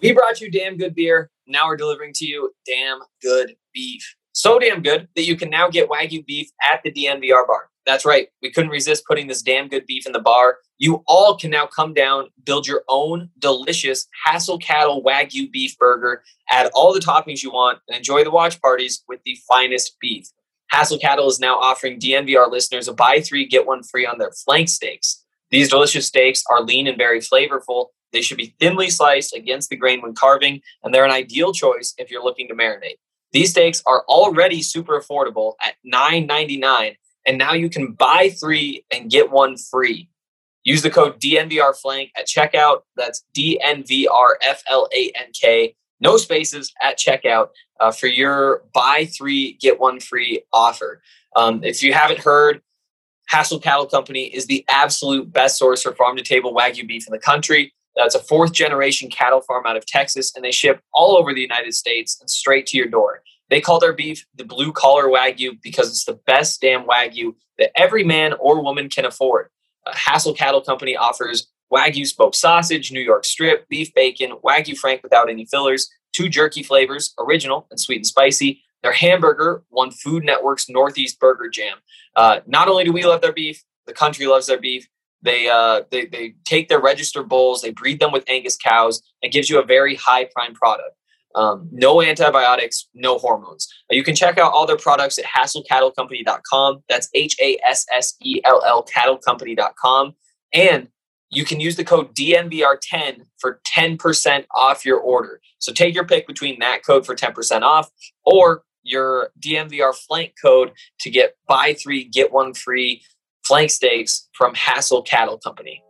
We brought you damn good beer. Now we're delivering to you damn good beef. So damn good that you can now get Wagyu beef at the DNVR bar. That's right. We couldn't resist putting this damn good beef in the bar. You all can now come down, build your own delicious Hassel Cattle Wagyu beef burger, add all the toppings you want, and enjoy the watch parties with the finest beef. Hassel Cattle is now offering DNVR listeners a buy three, get one free on their flank steaks. These delicious steaks are lean and very flavorful. They should be thinly sliced against the grain when carving, and they're an ideal choice if you're looking to marinate. These steaks are already super affordable at $9.99, and now you can buy three and get one free. Use the code DNVRFlank at checkout. That's DNVRFLANK. No spaces at checkout for your buy three, get one free offer. If you haven't heard, Hassel Cattle Company is the absolute best source for farm-to-table Wagyu beef in the country. It's a fourth-generation cattle farm out of Texas, and they ship all over the United States and straight to your door. They call their beef the blue-collar Wagyu because it's the best damn Wagyu that every man or woman can afford. Hassel Cattle Company offers Wagyu smoked sausage, New York strip, beef bacon, Wagyu Frank without any fillers, 2 jerky flavors, original and sweet and spicy. Their hamburger won Food Network's Northeast Burger Jam. Not only do we love their beef, the country loves their beef. They take their registered bulls, they breed them with Angus cows. It gives you a very high prime product. No antibiotics, no hormones. You can check out all their products at HassellCattleCompany.com. That's HASSELL cattlecompany.com. And you can use the code DNVR10 for 10% off your order. So take your pick between that code for 10% off or your DNVR flank code to get buy three, get one free flank steaks from Hassel Cattle Company.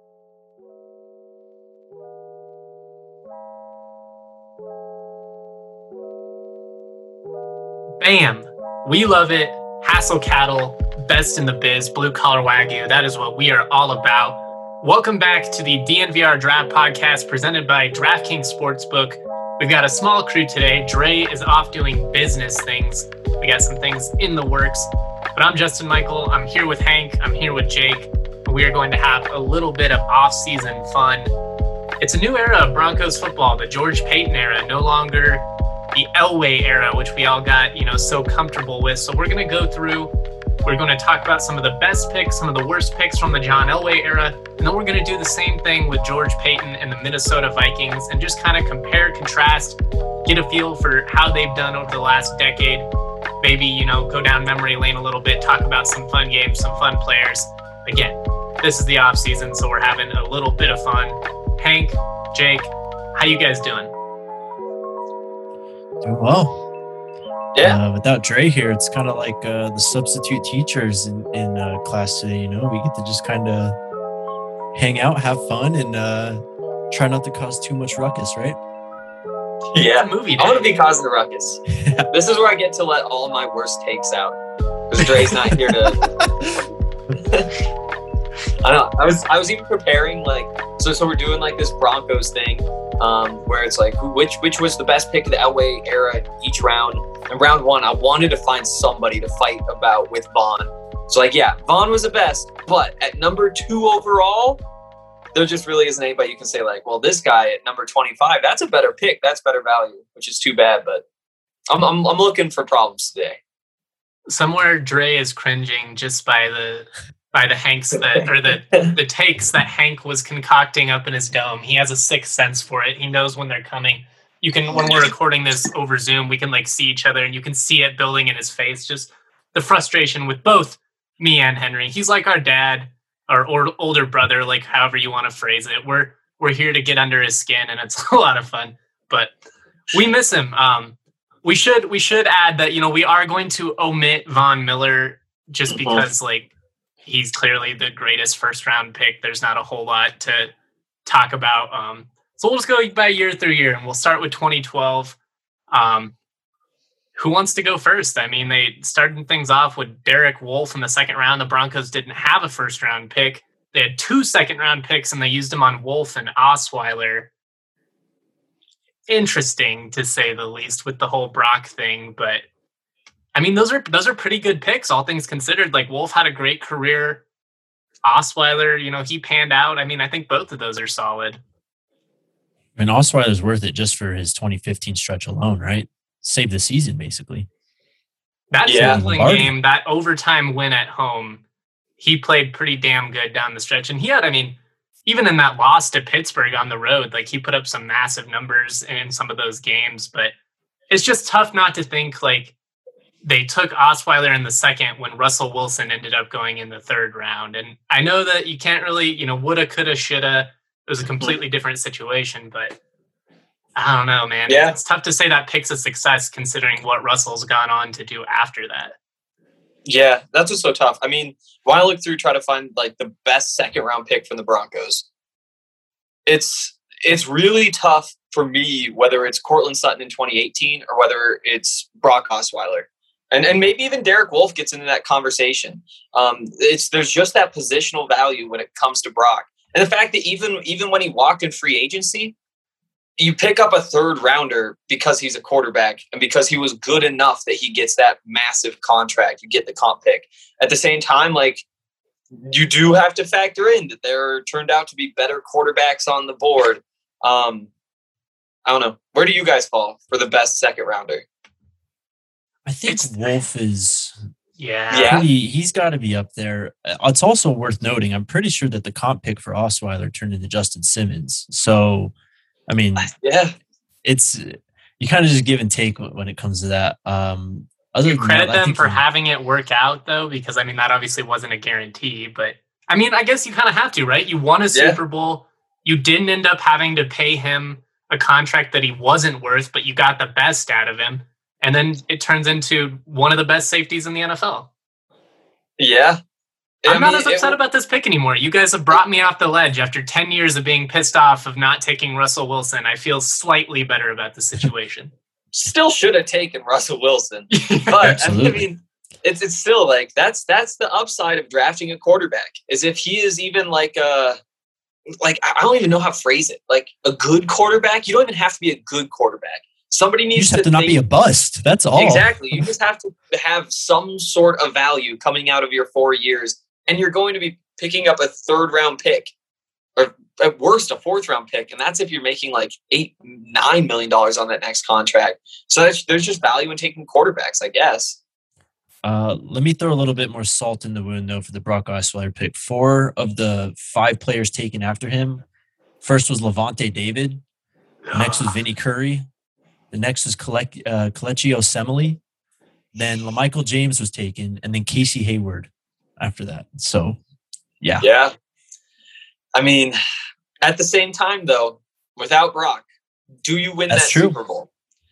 Bam! We love it. Hassel Cattle, best in the biz, blue collar Wagyu. That is what we are all about. Welcome back to the DNVR Draft Podcast presented by DraftKings Sportsbook. We've got a small crew today. Dre is off doing business things. We got some things in the works. But I'm Justin Michael. I'm here with Hank. I'm here with Jake. We are going to have a little bit of off-season fun. It's a new era of Broncos football, the George Paton era, no longer the Elway era, which we all got, so comfortable with. So we're going to go through, we're going to talk about some of the best picks, some of the worst picks from the John Elway era, and then we're going to do the same thing with George Paton and the Minnesota Vikings and just kind of compare, contrast, get a feel for how they've done over the last decade. Maybe, go down memory lane a little bit, talk about some fun games, some fun players. Again, this is the off season, so we're having a little bit of fun. Hank, Jake, how you guys doing? Doing well. Yeah. Without Dre here, it's kind of like the substitute teachers in class today. We get to just kind of hang out, have fun, and try not to cause too much ruckus, right? Yeah, movie I want to be causing the ruckus. This is where I get to let all my worst takes out because Dre's not here to. I don't know. I was even preparing so we're doing this Broncos thing where it's which was the best pick of the Elway era each round. In round one, I wanted to find somebody to fight about with Vaughn. So Vaughn was the best, but at number 2 overall, there just really isn't anybody you can say this guy at number 25, that's a better pick. That's better value, which is too bad. But I'm looking for problems today. Somewhere Dre is cringing just by the Hanks the takes that Hank was concocting up in his dome. He has a sixth sense for it. He knows when they're coming. When we're recording this over Zoom, we can see each other and you can see it building in his face. Just the frustration with both me and Henry. He's like our dad. Our older brother, however you want to phrase it. We're here to get under his skin, and it's a lot of fun. But we miss him. We should add that we are going to omit Von Miller just because he's clearly the greatest first round pick. There's not a whole lot to talk about. So we'll just go by year through year, and we'll start with 2012. Who wants to go first? I mean, they started things off with Derek Wolfe in the second round. The Broncos didn't have a first round pick. They had 2 second round picks and they used them on Wolfe and Osweiler. Interesting to say the least with the whole Brock thing, but I mean, those are pretty good picks, all things considered. Wolfe had a great career. Osweiler, he panned out. I mean, I think both of those are solid. I mean, Osweiler's worth it just for his 2015 stretch alone, right? Saved the season, basically. That Cleveland game, that overtime win at home, he played pretty damn good down the stretch. And he had, I mean, even in that loss to Pittsburgh on the road, like he put up some massive numbers in some of those games. But it's just tough not to think like they took Osweiler in the second when Russell Wilson ended up going in the third round. And I know that you can't really, woulda, coulda, shoulda. It was a completely different situation, but I don't know, man. Yeah. It's tough to say that pick's a success considering what Russell's gone on to do after that. Yeah, that's what's so tough. I mean, when I look through, try to find like the best second round pick from the Broncos, it's really tough for me, whether it's Courtland Sutton in 2018 or whether it's Brock Osweiler. And maybe even Derek Wolfe gets into that conversation. There's just that positional value when it comes to Brock. And the fact that even when he walked in free agency, you pick up a third rounder because he's a quarterback and because he was good enough that he gets that massive contract. You get the comp pick. At the same time, like, you do have to factor in that there turned out to be better quarterbacks on the board. I don't know. Where do you guys fall for the best second rounder? I think Wolf is... Yeah. He's got to be up there. It's also worth noting, I'm pretty sure that the comp pick for Osweiler turned into Justin Simmons. So, I mean, it's you kind of just give and take when it comes to that. You credit them for having it work out, though, because, I mean, that obviously wasn't a guarantee. But, I mean, I guess you kind of have to, right? You won a Super Bowl. You didn't end up having to pay him a contract that he wasn't worth, but you got the best out of him. And then it turns into one of the best safeties in the NFL. Yeah. I'm not as upset about this pick anymore. You guys have brought me off the ledge after 10 years of being pissed off of not taking Russell Wilson. I feel slightly better about the situation. Still should have taken Russell Wilson. But I mean, it's still like that's the upside of drafting a quarterback, is if he is even like I don't even know how to phrase it. Like a good quarterback, you don't even have to be a good quarterback. Somebody needs you just have to not be a bust. That's all. Exactly. You just have to have some sort of value coming out of your 4 years, and you're going to be picking up a third round pick, or at worst a fourth round pick, and that's if you're making like $8-9 million on that next contract. So there's just value in taking quarterbacks, I guess. Let me throw a little bit more salt in the wound though for the Brock Osweiler pick. 4 of the 5 players taken after him. First was Levante David. Next was Vinny Curry. The next is Kelechi Osemele. Then LaMichael James was taken, and then Casey Hayward after that. So, yeah. Yeah. I mean, at the same time, though, without Brock, do you win that Super Bowl?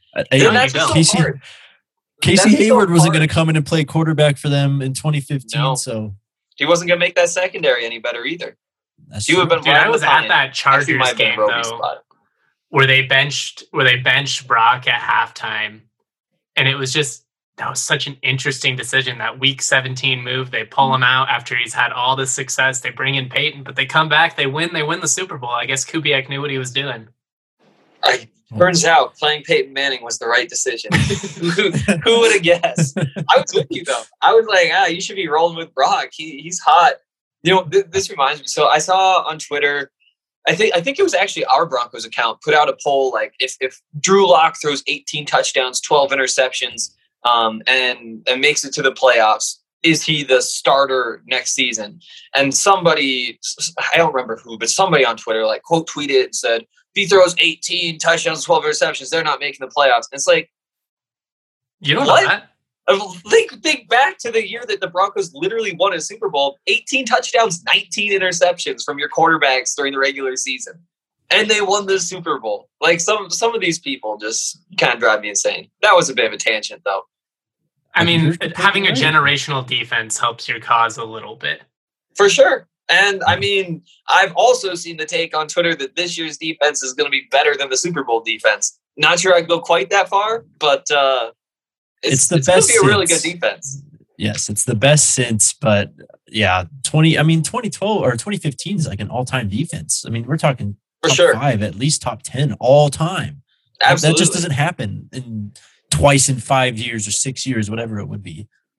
Casey Hayward wasn't going to come in and play quarterback for them in 2015, so he wasn't going to make that secondary any better either. He would have been. I was at that Chargers game though, where they benched Brock at halftime, and it was that was such an interesting decision. That Week 17 move, they pull him out after he's had all this success. They bring in Peyton, but they come back, they win the Super Bowl. I guess Kubiak knew what he was doing. Turns out playing Peyton Manning was the right decision. Who would have guessed? I was with you though. I was like, you should be rolling with Brock. He's hot. This reminds me. So I saw on Twitter, I think it was actually our Broncos account put out a poll like if Drew Lock throws 18 touchdowns, 12 interceptions, and makes it to the playoffs, is he the starter next season? And somebody, I don't remember who, but somebody on Twitter like quote tweeted and said, if he throws 18 touchdowns, 12 interceptions, they're not making the playoffs. And it's like, you don't know that. Think back to the year that the Broncos literally won a Super Bowl. 18 touchdowns, 19 interceptions from your quarterbacks during the regular season. And they won the Super Bowl. Like some of these people just kind of drive me insane. That was a bit of a tangent though. I mean, having a generational defense helps your cause a little bit. For sure. And I mean, I've also seen the take on Twitter that this year's defense is going to be better than the Super Bowl defense. Not sure I'd go quite that far, but it's the best. It's going to be a really good defense. Yes, it's the best since, but yeah, 2012 or 2015 is like an all-time defense. I mean, we're talking for top sure 5, at least top 10 all time. Absolutely. That just doesn't happen twice in 5 years or 6 years, whatever it would be.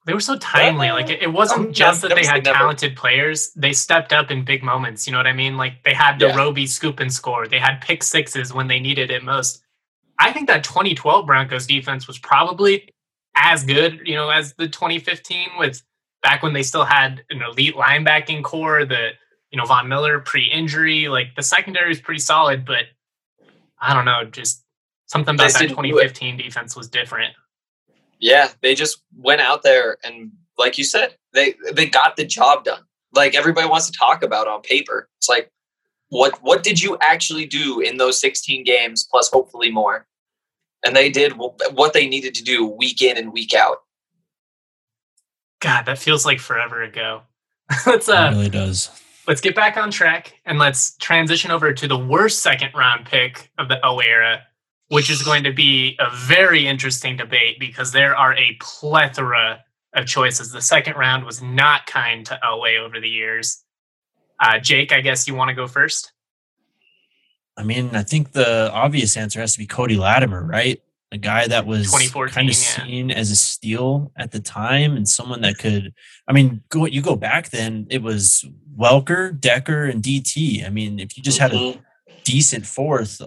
They were so timely. Like it wasn't just that they had never. talented players. They stepped up in big moments. You know what I mean? Like they had the Roby scoop and score. They had pick sixes when they needed it most. I think that 2012 Broncos defense was probably as good, as the 2015 with back when they still had an elite linebacking core, Von Miller pre-injury. Like the secondary is pretty solid, but I don't know, just something about that 2015 defense was different. Yeah, they just went out there and, like you said, they got the job done. Like everybody wants to talk about on paper. It's like, what did you actually do in those 16 games plus hopefully more? And they did what they needed to do week in and week out. God, that feels like forever ago. It really does. Let's get back on track and let's transition over to the worst second round pick of the Elway era, which is going to be a very interesting debate because there are a plethora of choices. The second round was not kind to Elway over the years. Jake, I guess you want to go first? I mean, I think the obvious answer has to be Cody Latimer, right? A guy that was kind of seen as a steal at the time and someone that could, you go back then, it was Welker, Decker, and DT. I mean, if you just had a decent fourth,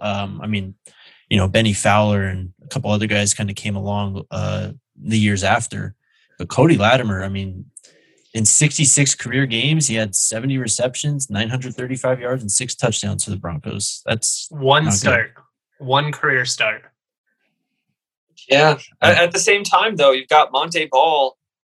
Benny Fowler and a couple other guys kind of came along the years after. But Cody Latimer, in 66 career games, he had 70 receptions, 935 yards, and 6 touchdowns for the Broncos. That's one start, one career start. Yeah. At the same time, though, you've got Montee Ball,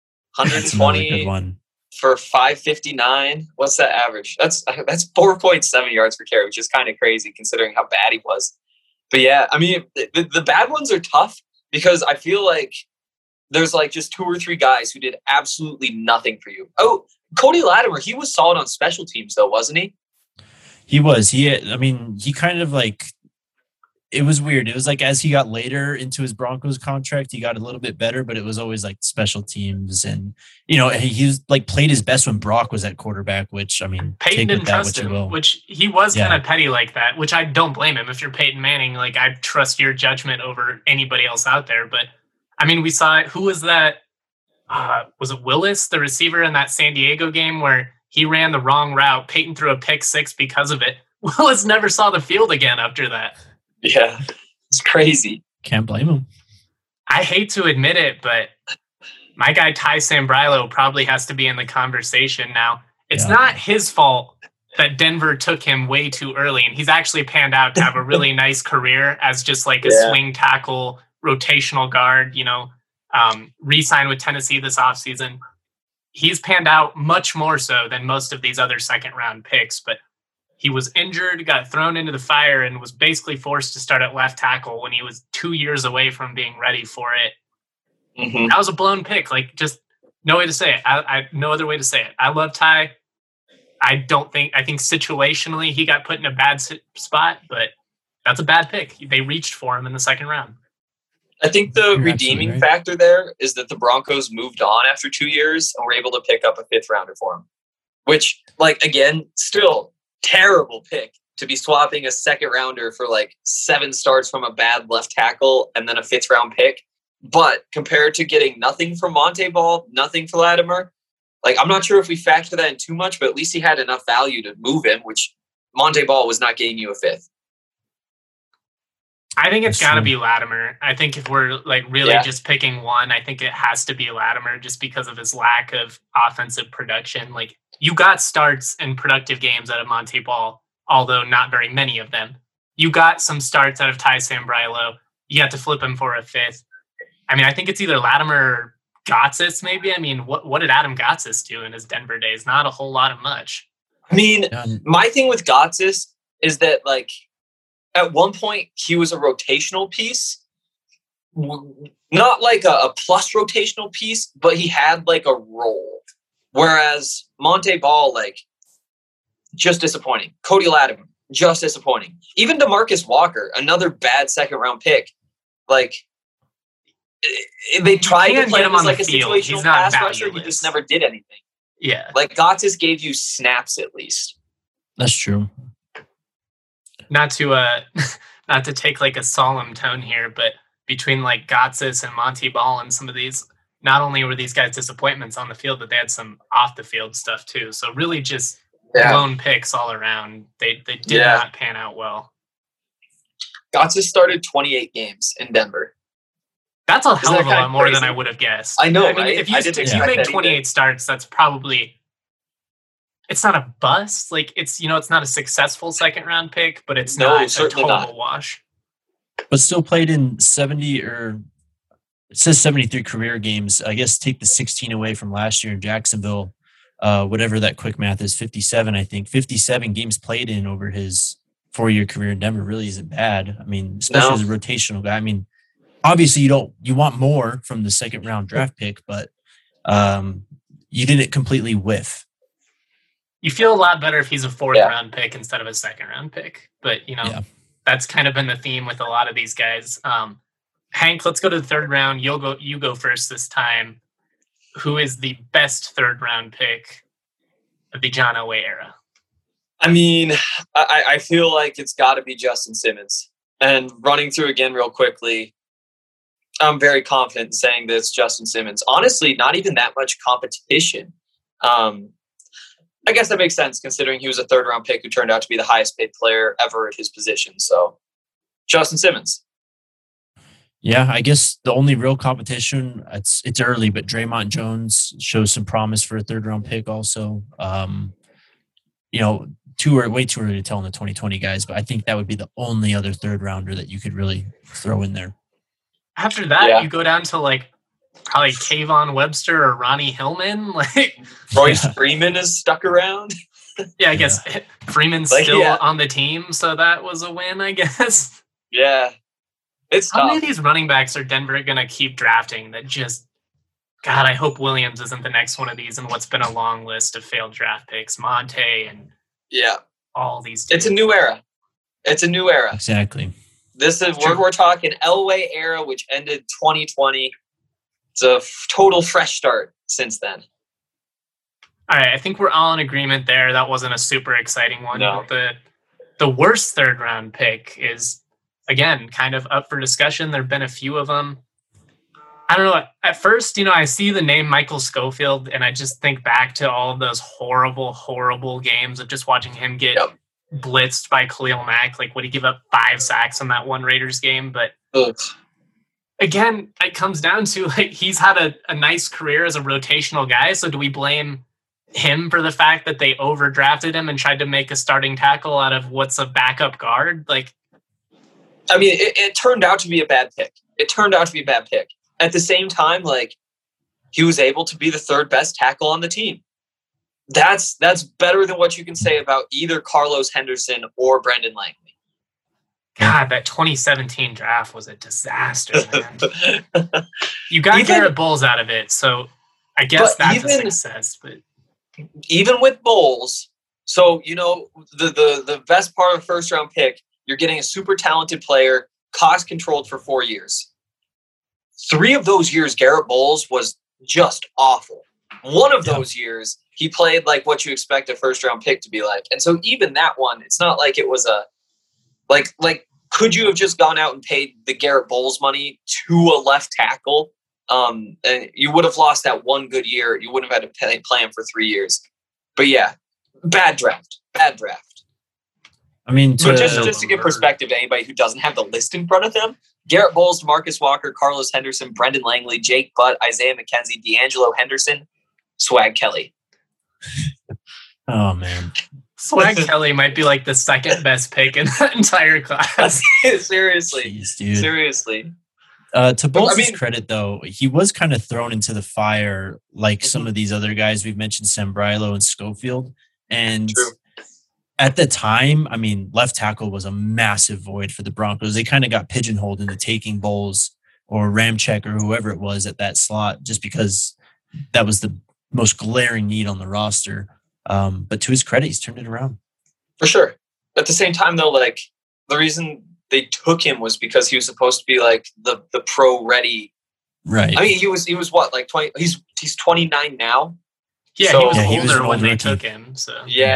120 for 559. What's that average? That's 4.7 yards per carry, which is kind of crazy considering how bad he was. But yeah, the bad ones are tough because I feel like there's like just 2 or 3 guys who did absolutely nothing for you. Oh, Cody Latimer, he was solid on special teams though, wasn't he? He was. He kind of like, it was weird. It was like as he got later into his Broncos contract, he got a little bit better, but it was always like special teams. And, he was like played his best when Brock was at quarterback, which, Peyton didn't trust him, which he was kind of petty like that, which I don't blame him. If you're Peyton Manning, like I trust your judgment over anybody else out there. But we saw it. Who was that? Was it Willis, the receiver in that San Diego game where he ran the wrong route? Peyton threw a pick 6 because of it. Willis never saw the field again after that. Yeah, it's crazy. Can't blame him. I hate to admit it, but my guy Ty Sambrailo probably has to be in the conversation now. It's not his fault that Denver took him way too early, and he's actually panned out to have a really nice career as just like a swing tackle, rotational guard, re-signed with Tennessee this offseason. He's panned out much more so than most of these other second-round picks, but he was injured, got thrown into the fire, and was basically forced to start at left tackle when he was 2 years away from being ready for it. Mm-hmm. That was a blown pick. Like, just no way to say it. I no other way to say it. I love Ty. I think situationally he got put in a bad spot, but that's a bad pick. They reached for him in the second round. I think the redeeming factor there is that the Broncos moved on after 2 years and were able to pick up a 5th rounder for him, which, again, still terrible pick to be swapping a 2nd rounder for 7 starts from a bad left tackle and then a 5th round pick. But compared to getting nothing from Montee Ball, nothing for Latimer, I'm not sure if we factor that in too much, but at least he had enough value to move him, which Montee Ball was not getting you a 5th. I think it's got to be Latimer. I think if we're just picking one, I think it has to be Latimer just because of his lack of offensive production. You got starts in productive games out of Montee Ball, although not very many of them. You got some starts out of Ty Sambrailo. You had to flip him for a 5th. I think it's either Latimer or Gotsis, maybe. What did Adam Gotsis do in his Denver days? Not a whole lot of much. My thing with Gotsis is that, at one point, he was a rotational piece. Not a plus rotational piece, but he had, a role. Whereas Montee Ball, just disappointing. Cody Latimer, just disappointing. Even DeMarcus Walker, another bad 2nd round pick. They tried to play him as a situational pass rusher. He just never did anything. Yeah. Gotsis gave you snaps at least. That's true. Not to take a solemn tone here, but between Gotsis and Montee Ball and some of these not only were these guys disappointments on the field, but they had some off the field stuff too. So really just lone picks all around. They did not pan out well. Gotsis started 28 games in Denver. That's a hell of a lot more than I would have guessed. I know, I mean, right? If you make 28 starts, that's probably... It's not a bust. Like, it's not a successful second round pick, but it's not a total wash. But still played in 70 or it says 73 career games. I guess take the 16 away from last year in Jacksonville. Whatever that quick math is, 57, I think. 57 games played in over his 4-year career in Denver really isn't bad. I mean, especially as a rotational guy. I mean, obviously you want more from the second round draft pick, but you didn't completely whiff. You feel a lot better if he's a fourth round pick instead of a second round pick. But, that's kind of been the theme with a lot of these guys. Hank, let's go to the third round. You go first this time. Who is the best third round pick of the John Elway era? I mean, I feel like it's got to be Justin Simmons. And running through again real quickly, I'm very confident in saying this, Justin Simmons. Honestly, not even that much competition. I guess that makes sense considering he was a third round pick who turned out to be the highest paid player ever at his position. So, Justin Simmons. Yeah, I guess the only real competition, it's early, but Draymond Jones shows some promise for a third round pick also. Way too early to tell in the 2020 guys, but I think that would be the only other third rounder that you could really throw in there. After that, you go down to probably Kayvon Webster or Ronnie Hillman. Royce Freeman is stuck around. Yeah, I guess Freeman's still on the team, so that was a win, I guess. Yeah. It's How many of these running backs are Denver going to keep drafting that just... God, I hope Williams isn't the next one of these in what's been a long list of failed draft picks. Monte and all these dudes. It's a new era. Exactly. This is we're talking Elway era, which ended 2020. It's a total fresh start since then. All right, I think we're all in agreement there. That wasn't a super exciting one. No. The worst third round pick is, again, kind of up for discussion. There have been a few of them. I don't know. At first, I see the name Michael Schofield, and I just think back to all of those horrible, horrible games of just watching him get blitzed by Khalil Mack. Would he give up 5 sacks in that one Raiders game? But again, it comes down to he's had a nice career as a rotational guy. So do we blame him for the fact that they overdrafted him and tried to make a starting tackle out of what's a backup guard? I mean, it turned out to be a bad pick. At the same time, he was able to be the third best tackle on the team. That's better than what you can say about either Carlos Henderson or Brendan Langley. God, that 2017 draft was a disaster, man. You got Garrett Bowles out of it, so I guess that's a success. But even with Bowles, so the best part of a first round pick, you're getting a super talented player, cost controlled for 4 years. 3 of those years, Garrett Bowles was just awful. One of those years, he played like what you expect a first round pick to be like. And so even that one, it's not like it was a could you have just gone out and paid the Garrett Bowles money to a left tackle? And you would have lost that one good year. You wouldn't have had to play him for 3 years. But yeah, bad draft. I mean, just to give perspective to anybody who doesn't have the list in front of them, Garrett Bowles, Marcus Walker, Carlos Henderson, Brendan Langley, Jake Butt, Isaiah McKenzie, D'Angelo Henderson, Swag Kelly. Oh, man. Swag Kelly might be the second best pick in that entire class. Seriously. Jeez, dude. Seriously. To Bowles' credit, though, he was kind of thrown into the fire some of these other guys. We've mentioned Sambrailo and Schofield. And at the time, I mean, left tackle was a massive void for the Broncos. They kind of got pigeonholed into taking Bowles or Ramczyk or whoever it was at that slot just because that was the most glaring need on the roster. But to his credit, he's turned it around. For sure. At the same time, though, the reason they took him was because he was supposed to be the pro ready. Right. I mean, he was what, 20? He's 29 now. Yeah, so, he was older when they took him. So yeah.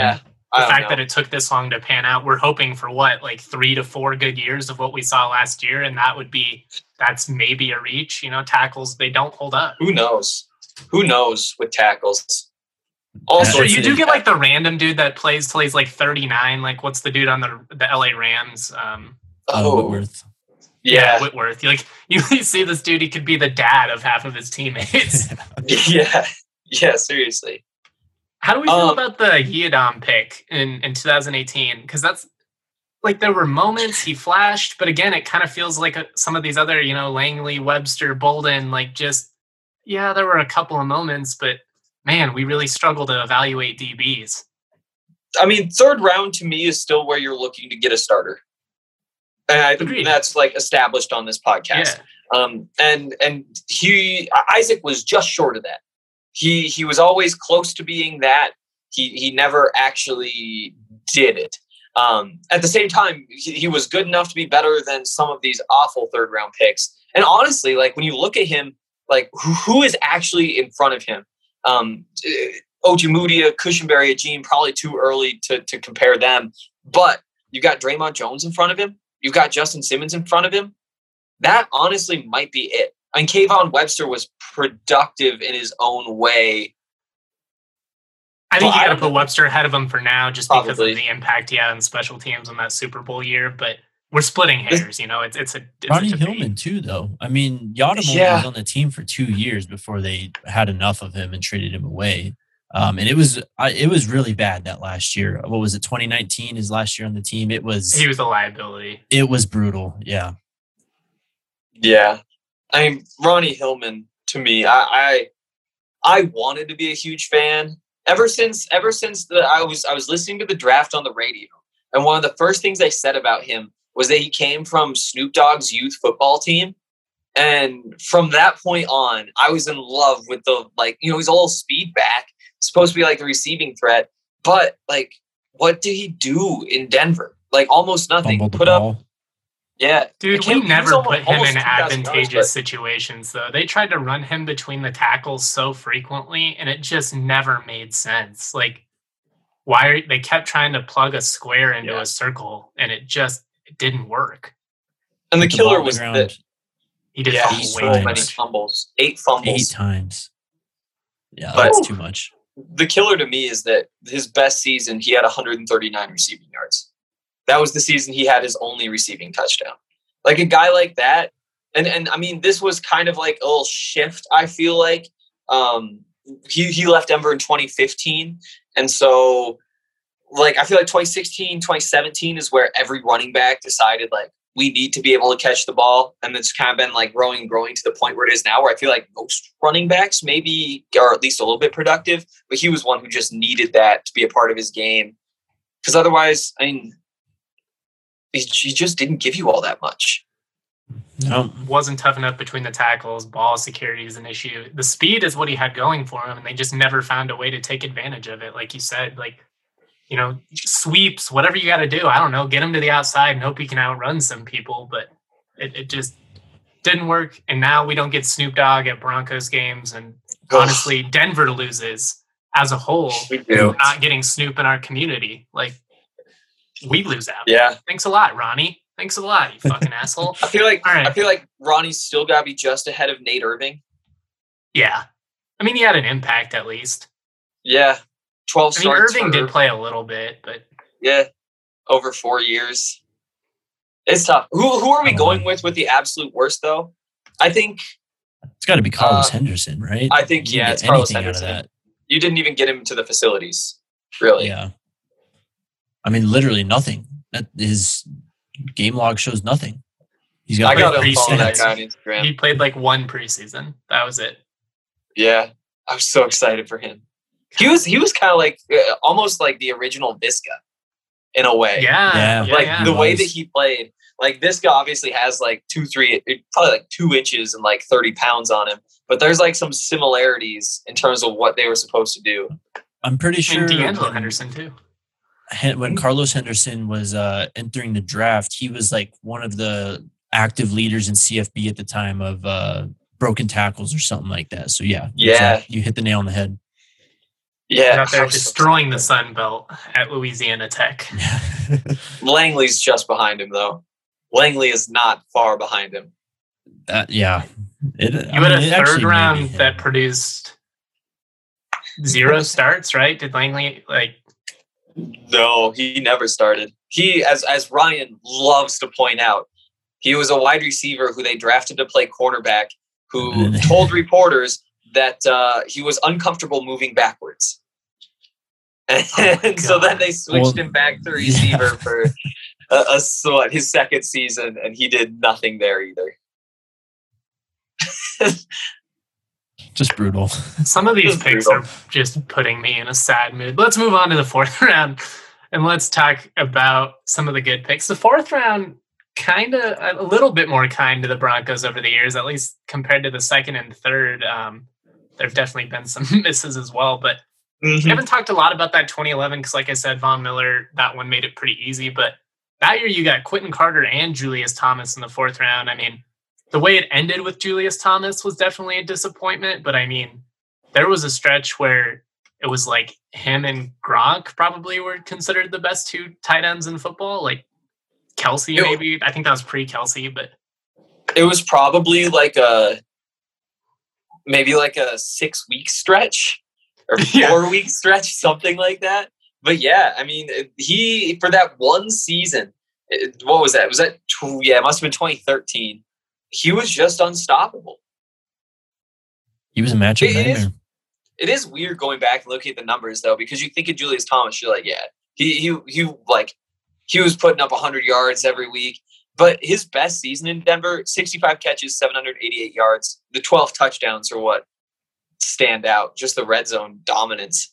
The fact that it took this long to pan out, we're hoping for like 3 to 4 good years of what we saw last year. And that's maybe a reach. Tackles, they don't hold up. Who knows with tackles? Also, you do get like the random dude that plays till he's like 39. Like, what's the dude on the LA Rams? Whitworth. Yeah, Whitworth. You see this dude, he could be the dad of half of his teammates. Yeah, seriously. How do we feel about the Yiadom pick in 2018? Because that's like, there were moments he flashed, but again, it kind of feels like some of these other, Langley, Webster, Bolden, there were a couple of moments, but man, we really struggle to evaluate DBs. I mean, third round to me is still where you're looking to get a starter. And I think that's like established on this podcast. Yeah. And Isaac was just short of that. He was always close to being that. He never actually did it. At the same time, he was good enough to be better than some of these awful third round picks. And honestly, like when you look at him, like who is actually in front of him? Ojemudia, Cushenberry, Agene, probably too early to compare them. But you've got Draymond Jones in front of him. You've got Justin Simmons in front of him. That honestly might be it. And Kayvon Webster was productive in his own way. I think you got to put Webster ahead of him for now, just because of the impact he had on special teams in that Super Bowl year. But we're splitting hairs, It's Ronnie Hillman too, though. I mean, Yiadom was on the team for 2 years before they had enough of him and traded him away. And it was really bad that last year. What was it? 2019 his last year on the team. He was a liability. It was brutal. Yeah. Yeah. I mean, Ronnie Hillman, to me, I wanted to be a huge fan ever since I was listening to the draft on the radio. And one of the first things they said about him was that he came from Snoop Dogg's youth football team. And from that point on, I was in love with he's a little speed back, supposed to be like the receiving threat. But like, what did he do in Denver? Like almost nothing. Put up. Yeah. Dude, we never put him in advantageous situations, though. They tried to run him between the tackles so frequently, and it just never made sense. Like, they kept trying to plug a square into a circle, and it didn't work. And the killer was that he did so many fumbles. 8 fumbles. 8 times. Yeah, that's too much. The killer to me is that his best season, he had 139 receiving yards. That was the season he had his only receiving touchdown. Like a guy like that. And I mean, this was kind of like a little shift, I feel like. He left Denver in 2015. And so, like, I feel like 2016, 2017 is where every running back decided, like, we need to be able to catch the ball. And it's kind of been like growing to the point where it is now, where I feel like most running backs maybe are at least a little bit productive. But he was one who just needed that to be a part of his game. Because otherwise, I mean, he just didn't give you all that much. No, wasn't tough enough between the tackles. Ball security is an issue. The speed is what he had going for him, and they just never found a way to take advantage of it. Like you said, sweeps, whatever you got to do. I don't know, get him to the outside and hope he can outrun some people, but it just didn't work. And now we don't get Snoop Dogg at Broncos games, and honestly, Denver loses as a whole. We do. Not getting Snoop in our community. Like, we lose out. Yeah. Thanks a lot, Ronnie. Thanks a lot, you fucking asshole. I feel like Ronnie's still got to be just ahead of Nate Irving. Yeah. I mean, he had an impact at least. Yeah. 12 starts. Irving did play a little bit, but... Yeah. Over 4 years. It's tough. Who are we going with the absolute worst, though? I think... It's got to be Carlos Henderson, right? I think, it's Carlos Henderson. You didn't even get him to the facilities, really. Yeah. I mean, literally nothing. His game log shows nothing. I got to follow that guy on Instagram. He played like 1 preseason. That was it. Yeah, I was so excited for him. He was kind of like almost like the original Visca in a way. Yeah. The way that he played. Like Visca obviously has like 2 inches and like 30 pounds on him. But there's like some similarities in terms of what they were supposed to do. I'm pretty sure. And D'Angelo Henderson too. When Carlos Henderson was entering the draft, he was like one of the active leaders in CFB at the time of broken tackles or something like that. So yeah, you hit the nail on the head. Yeah, out there destroying the Sun Belt at Louisiana Tech. Langley's just behind him, though. Langley is not far behind him. Yeah. You had a third round that produced 0 starts, right? Did Langley No, he never started. He, as Ryan loves to point out, he was a wide receiver who they drafted to play cornerback, who told reporters that he was uncomfortable moving backwards. And so then they switched him back to receiver for his second season, and he did nothing there either. Just brutal. Some of these picks are just putting me in a sad mood. Let's move on to the fourth round, and let's talk about some of the good picks. The fourth round, kind of a little bit more kind to the Broncos over the years, at least compared to the second and third. There have definitely been some misses as well, but we haven't talked a lot about that 2011 because, like I said, Von Miller, that one made it pretty easy. But that year you got Quentin Carter and Julius Thomas in the fourth round. I mean, the way it ended with Julius Thomas was definitely a disappointment. But, I mean, there was a stretch where it was like him and Gronk probably were considered the best 2 tight ends in football. Like Kelsey, maybe. I think that was pre-Kelsey, but it was probably maybe like a 6-week stretch or 4-week stretch, something like that. But yeah, I mean, he, for that one season, what was that? It must have been 2013. He was just unstoppable. He was a matchup nightmare. It is weird going back and looking at the numbers though, because you think of Julius Thomas, you're like, yeah, he was putting up 100 yards every week. But his best season in Denver, 65 catches, 788 yards. The 12 touchdowns are what stand out. Just the red zone dominance.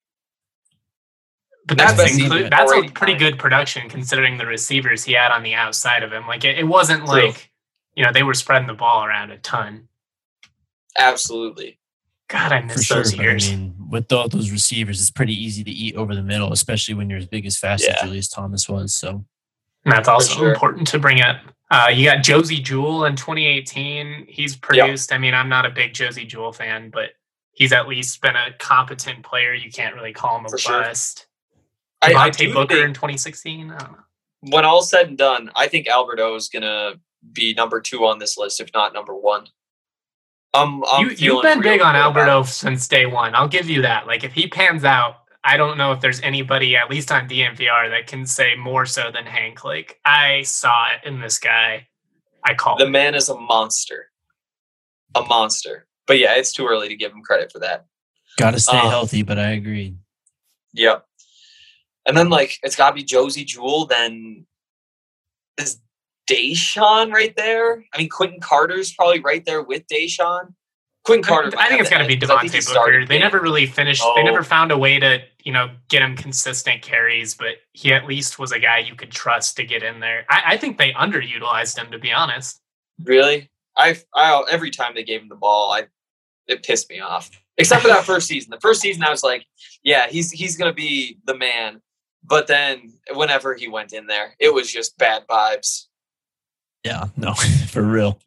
But that's a pretty good production considering the receivers he had on the outside of him. Like it wasn't like, they were spreading the ball around a ton. Absolutely. God, I miss those years. I mean, with all those receivers, it's pretty easy to eat over the middle, especially when you're as big as fast as Julius Thomas was. So. And that's also important to bring up. You got Josie Jewell in 2018. He's produced. I mean, I'm not a big Josie Jewell fan, but he's at least been a competent player. You can't really call him a bust. Devontae Booker in 2016. I don't know. When all's said and done, I think Alberto is going to be number 2 on this list, if not number 1. You've been big on Alberto since day one. I'll give you that. Like, if he pans out, I don't know if there's anybody, at least on DNVR, that can say more so than Hank. Like, I saw it in this guy. I call the man is a monster. A monster. But yeah, it's too early to give him credit for that. Got to stay healthy, but I agree. Yep. And then, it's got to be Josie Jewell. Then is Deshaun right there? I mean, Quentin Carter's probably right there with Deshaun. Quentin Carter. I think it's got to be Devontae Booker. They never really finished. They never found a way to, get him consistent carries, but he at least was a guy you could trust to get in there. I think they underutilized him, to be honest. Really? I every time they gave him the ball, it pissed me off. Except for that first season. The first season, I was like, yeah, he's going to be the man. But then whenever he went in there, it was just bad vibes. Yeah, no, for real.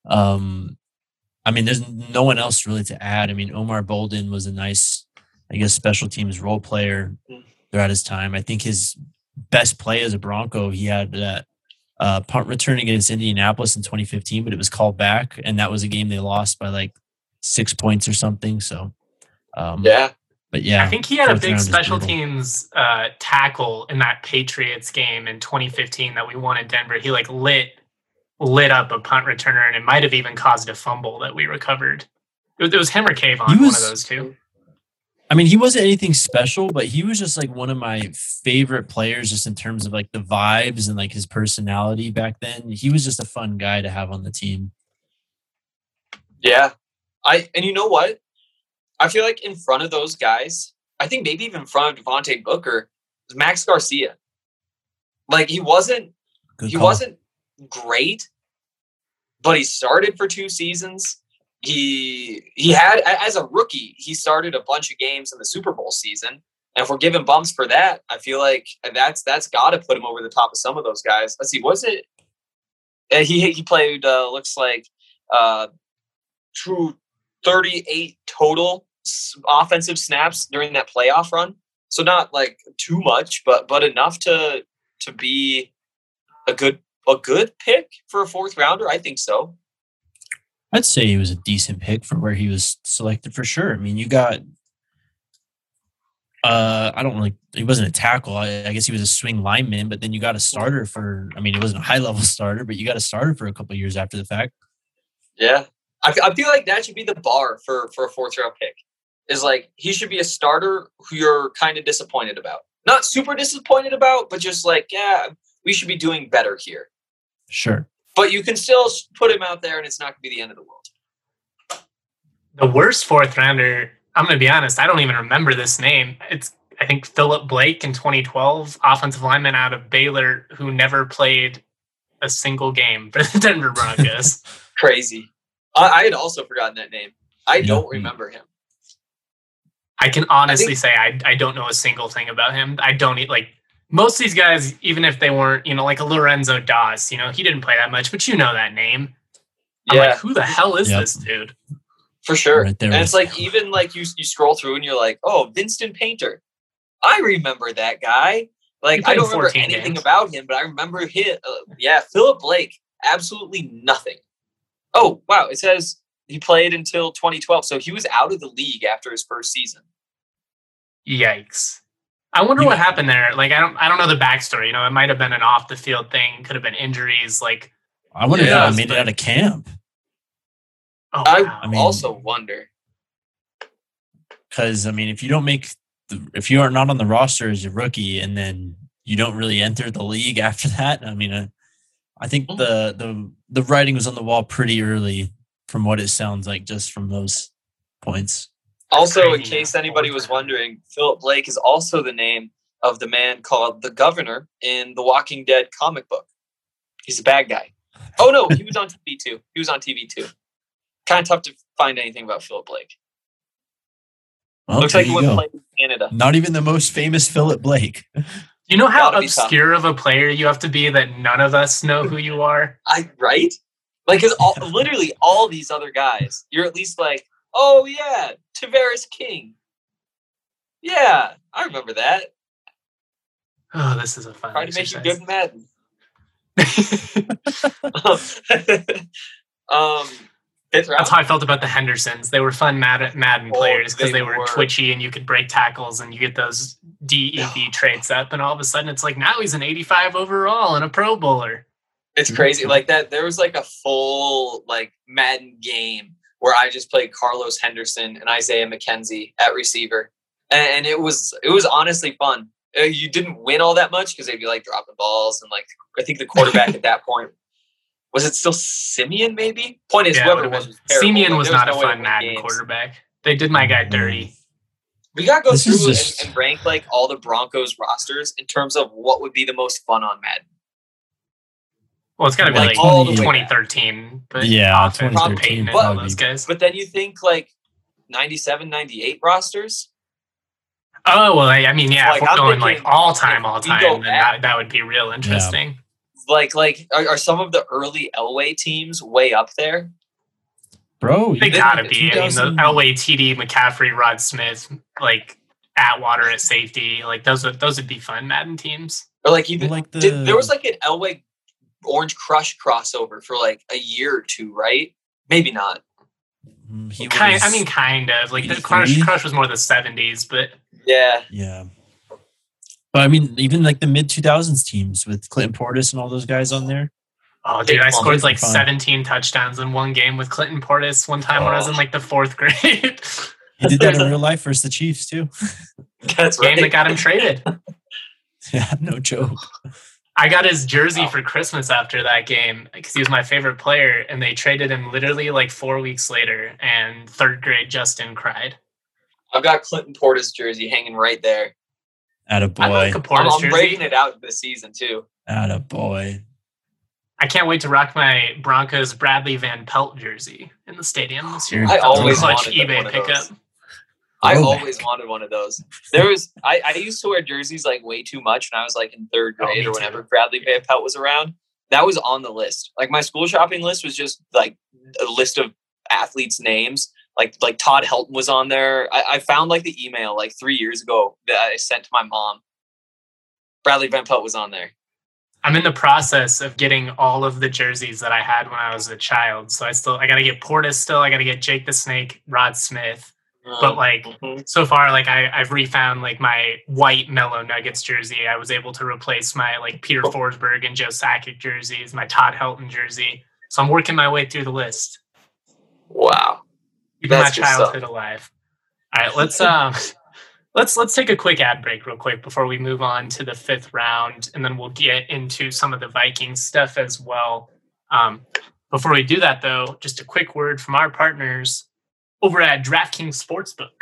I mean, there's no one else really to add. I mean, Omar Bolden was a nice, special teams role player throughout his time. I think his best play as a Bronco, he had that punt return against Indianapolis in 2015, but it was called back, and that was a game they lost by 6 points or something. So, But yeah, I think he had a big special teams tackle in that Patriots game in 2015 that we won in Denver. He lit up a punt returner, and it might have even caused a fumble that we recovered. It was him or Kayvon, one of those two. I mean, he wasn't anything special, but he was just one of my favorite players, just in terms of the vibes and his personality back then. He was just a fun guy to have on the team. Yeah, and you know what? I feel like in front of those guys, I think maybe even in front of Devontae Booker, was Max Garcia. He wasn't great, but he started for 2 seasons. He had, as a rookie, he started a bunch of games in the Super Bowl season. And if we're giving bumps for that, I feel like that's got to put him over the top of some of those guys. Let's see, was it? He played, looks like, 38 total offensive snaps during that playoff run. So not like too much, but enough to be a good pick for a fourth rounder. I think so. I'd say he was a decent pick for where he was selected for sure. I mean, you got he wasn't a tackle. I guess he was a swing lineman, but then you got a starter for, I mean, it wasn't a high level starter, but you got a starter for a couple of years after the fact. Yeah. I feel like that should be the bar for a fourth round pick. Is like, he should be a starter who you're kind of disappointed about. Not super disappointed about, but just like, yeah, we should be doing better here. Sure. But you can still put him out there and it's not going to be the end of the world. The worst fourth rounder, I'm going to be honest, I don't even remember this name. It's, I think, Philip Blake in 2012, offensive lineman out of Baylor who never played a single game for the Denver Broncos. Crazy. I had also forgotten that name. I don't remember him. I can honestly say I don't know a single thing about him. I don't like most of these guys, even if they weren't, like a Lorenzo Dawes, he didn't play that much, but you know that name. I'm like, who the hell is this dude? For sure. Right there and it's like, even like you scroll through and you're like, oh, Vincent Painter. I remember that guy. Like, I don't remember anything about him, but I remember him. Philip Blake, absolutely nothing. Oh, wow. It says he played until 2012. So he was out of the league after his first season. Yikes. I wonder what happened there. Like, I don't know the backstory. It might have been an off the field thing. Could have been injuries. Like, I wonder if he made it out of camp. Oh, wow. I also wonder. Because, I mean, if you are not on the roster as a rookie and then you don't really enter the league after that, I mean, I think the writing was on the wall pretty early from what it sounds like just from those points. Also, in case anybody was wondering, Philip Blake is also the name of the man called the Governor in the Walking Dead comic book. He's a bad guy. Oh, no, he was on TV too. Kind of tough to find anything about Philip Blake. Well, looks like he went to play in Canada. Not even the most famous Philip Blake. You know how obscure of a player you have to be that none of us know who you are? Right? Like, because literally all these other guys, you're at least like, oh, yeah, Tavares King. Yeah, I remember that. Oh, this is a fun Trying to make you exercise. good in Madden. That's how I felt about the Hendersons. They were fun Madden players because they were twitchy and you could break tackles and you get those DEV traits up, and all of a sudden it's like, now he's an 85 overall and a Pro Bowler. It's crazy. Like that, there was like a full like Madden game where I just played Carlos Henderson and Isaiah McKenzie at receiver. And it was honestly fun. You didn't win all that much because they'd be like dropping balls. And like, I think the quarterback at that point, was it still Simeon maybe? Point is, whoever it was terrible. Simeon was not a fun Madden quarterback. They did my guy dirty. We got to go through and rank like all the Broncos rosters in terms of what would be the most fun on Madden. Well, it's got to be like all the 2013. But yeah, 2013. All those guys. But then you think like 97, 98 rosters. Oh, well, I mean, yeah, like, if we're going like all time, then back, that would be real interesting. Yeah. Like are some of the early Elway teams way up there? Bro, they gotta be. I mean, the Elway, TD, McCaffrey, Rod Smith, like Atwater at safety, like those would be fun Madden teams. Or like even like there was like an Elway Orange Crush crossover for like a year or two, right? Maybe not. Kind of. Like the Crush was more the 70s, but yeah. But I mean, even like the mid 2000s teams with Clinton Portis and all those guys on there. Oh, dude, I scored like 17 touchdowns in one game with Clinton Portis one time when I was in like the 4th grade. He did that in real life versus the Chiefs too. That's right. Game that got him traded. Yeah, no joke. I got his jersey for Christmas after that game because he was my favorite player, and they traded him literally like 4 weeks later, and 3rd grade Justin cried. I've got Clinton Portis jersey hanging right there. Attaboy. I like a Portis jersey. I'm breaking it out this season too. Attaboy. I can't wait to rock my Broncos Bradley Van Pelt jersey in the stadium this year. I always clutch wanted eBay pickup. I always wanted one of those. I used to wear jerseys like way too much when I was like in 3rd grade or whenever Bradley Van Pelt was around. That was on the list. Like my school shopping list was just like a list of athletes' names. like Todd Helton was on there. I found like the email like 3 years ago that I sent to my mom. Bradley Van Pelt was on there. I'm in the process of getting all of the jerseys that I had when I was a child. So I got to get Portis still. I got to get Jake the Snake, Rod Smith. But like so far, like I've refound like my white Mellow Nuggets jersey. I was able to replace my like Peter Forsberg and Joe Sakic jerseys, my Todd Helton jersey. So I'm working my way through the list. Wow. Keeping my childhood alive. All right, let's take a quick ad break real quick before we move on to the 5th round, and then we'll get into some of the Vikings stuff as well. Before we do that, though, just a quick word from our partners over at DraftKings Sportsbook.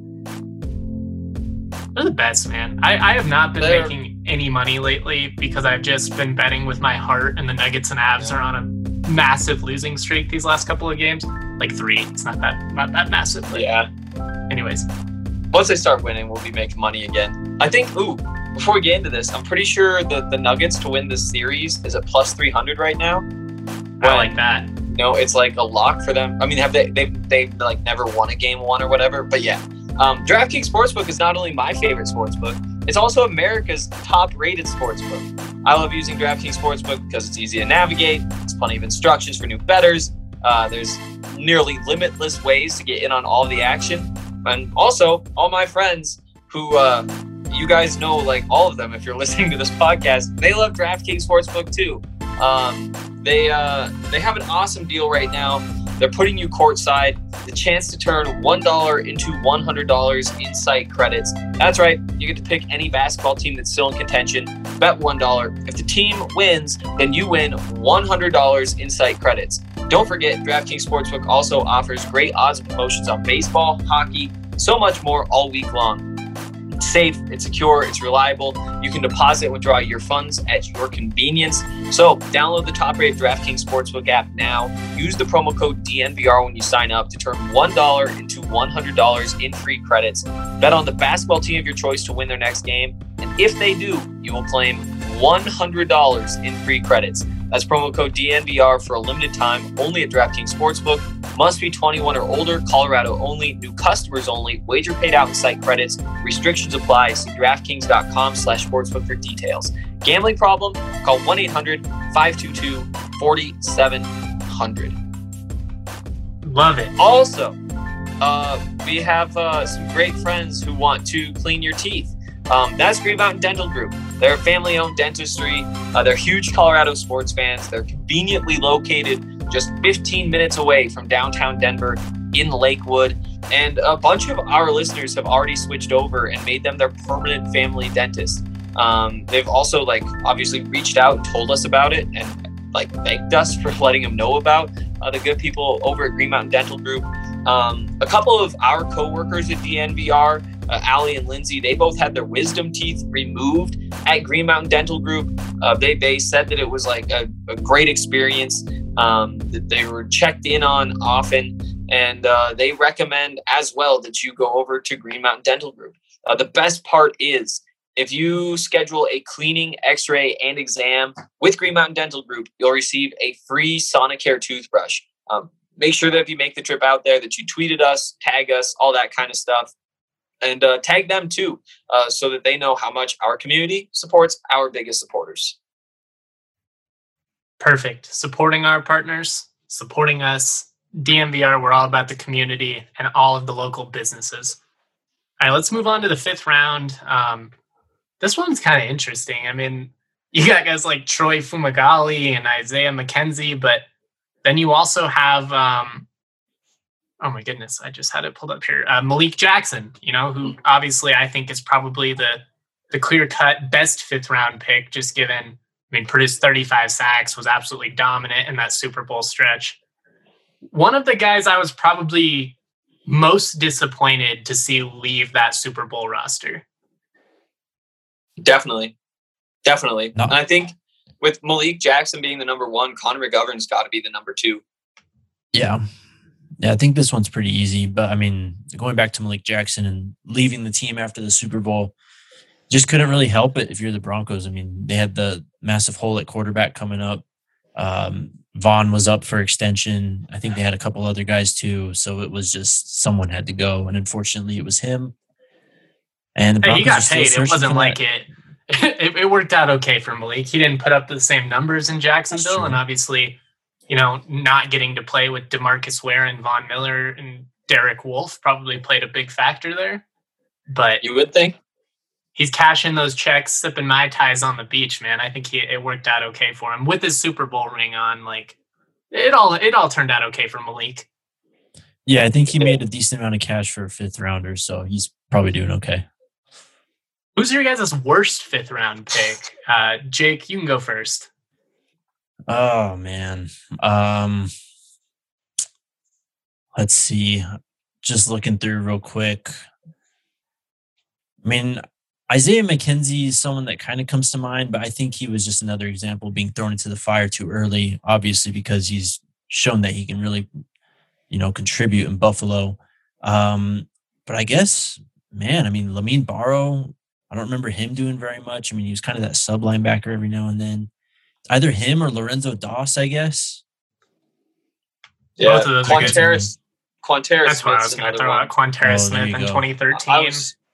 They're the best, man. I have not been making any money lately because I've just been betting with my heart, and the Nuggets and Avs are on a massive losing streak these last couple of games. Like 3. It's not that massive. But anyways. Once they start winning, we'll be making money again. I think, before we get into this, I'm pretty sure the Nuggets to win this series is at plus 300 right now. I like that. It's like a lock for them. I mean, have they like never won a game 1 or whatever? But yeah, DraftKings Sportsbook is not only my favorite sportsbook, it's also America's top-rated sportsbook. I love using DraftKings Sportsbook because it's easy to navigate. There's plenty of instructions for new bettors. There's nearly limitless ways to get in on all the action. And also, all my friends who, you guys know, like all of them, if you're listening to this podcast, they love DraftKings Sportsbook too. They have an awesome deal right now. They're putting you courtside, the chance to turn $1 into $100 in site credits. That's right, you get to pick any basketball team that's still in contention. Bet $1. If the team wins, then you win $100 in site credits. Don't forget, DraftKings Sportsbook also offers great odds and promotions on baseball, hockey, so much more all week long. It's safe, it's secure, it's reliable. You can deposit and withdraw your funds at your convenience. So download the top-rated DraftKings Sportsbook app now. Use the promo code DNVR when you sign up to turn $1 into $100 in free credits. Bet on the basketball team of your choice to win their next game. And if they do, you will claim $100 in free credits. That's promo code DNVR for a limited time, only at DraftKings Sportsbook. Must be 21 or older, Colorado only, new customers only, wager paid out in site credits, restrictions apply. See DraftKings.com/sportsbook for details. Gambling problem? Call 1-800-522-4700. Love it. Also, we have some great friends who want to clean your teeth. That's Green Mountain Dental Group. They're a family-owned dentistry. They're huge Colorado sports fans. They're conveniently located just 15 minutes away from downtown Denver in Lakewood. And a bunch of our listeners have already switched over and made them their permanent family dentist. They've also obviously reached out and told us about it and thanked us for letting them know about the good people over at Green Mountain Dental Group. A couple of our coworkers at DNVR, Allie and Lindsay, they both had their wisdom teeth removed at Green Mountain Dental Group. They said that it was a great experience, that they were checked in on often, and they recommend as well that you go over to Green Mountain Dental Group. The best part is, if you schedule a cleaning, x-ray, and exam with Green Mountain Dental Group, you'll receive a free Sonicare toothbrush. Make sure that if you make the trip out there that you tweeted us, tag us, all that kind of stuff. And tag them too, so that they know how much our community supports our biggest supporters. Perfect. Supporting our partners, supporting us. DNVR, we're all about the community and all of the local businesses. All right, let's move on to the 5th round. This one's kind of interesting. I mean, you got guys like Troy Fumagalli and Isaiah McKenzie, but then you also have... oh my goodness, I just had it pulled up here. Malik Jackson, who obviously I think is probably the clear-cut best 5th round pick, just given, produced 35 sacks, was absolutely dominant in that Super Bowl stretch. One of the guys I was probably most disappointed to see leave that Super Bowl roster. Definitely. No. And I think with Malik Jackson being the number 1, Connor McGovern's got to be the number 2. Yeah, I think this one's pretty easy. But, going back to Malik Jackson and leaving the team after the Super Bowl, just couldn't really help it if you're the Broncos. They had the massive hole at quarterback coming up. Vaughn was up for extension. I think they had a couple other guys too. So it was just someone had to go. And unfortunately, it was him. And the Hey, he Broncos are got still paid. It searching wasn't for like that. it worked out okay for Malik. He didn't put up the same numbers in Jacksonville, true. and obviously, not getting to play with DeMarcus Ware and Von Miller and Derek Wolfe probably played a big factor there. But You would think. he's cashing those checks, sipping Mai Tais on the beach, man. I think it worked out okay for him with his Super Bowl ring on. Like it all turned out okay for Malik. Yeah, I think he made a decent amount of cash for a 5th rounder. So he's probably doing okay. Who's your guys' worst 5th round pick? Jake, you can go first. Oh, man. Let's see. Just looking through real quick. I mean, Isaiah McKenzie is someone that kind of comes to mind, but I think he was just another example of being thrown into the fire too early, obviously, because he's shown that he can really, contribute in Buffalo. But I guess, man, Lamine Barrow, I don't remember him doing very much. I mean, he was kind of that sub linebacker every now and then. Either him or Lorenzo Doss, I guess. Yeah, Both of those are good. Quanterra That's what I was Smith's going to another throw one. out. Quanterra Oh, there Smith you in go. 2013.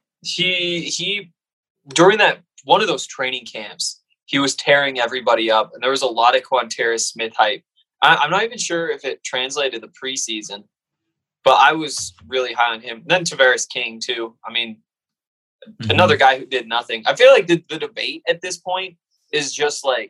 He during that one of those training camps, he was tearing everybody up, and there was a lot of Quanterra Smith hype. I'm not even sure if it translated the preseason, but I was really high on him. And then Tavares King too. I mean, another guy who did nothing. I feel like the debate at this point is just like,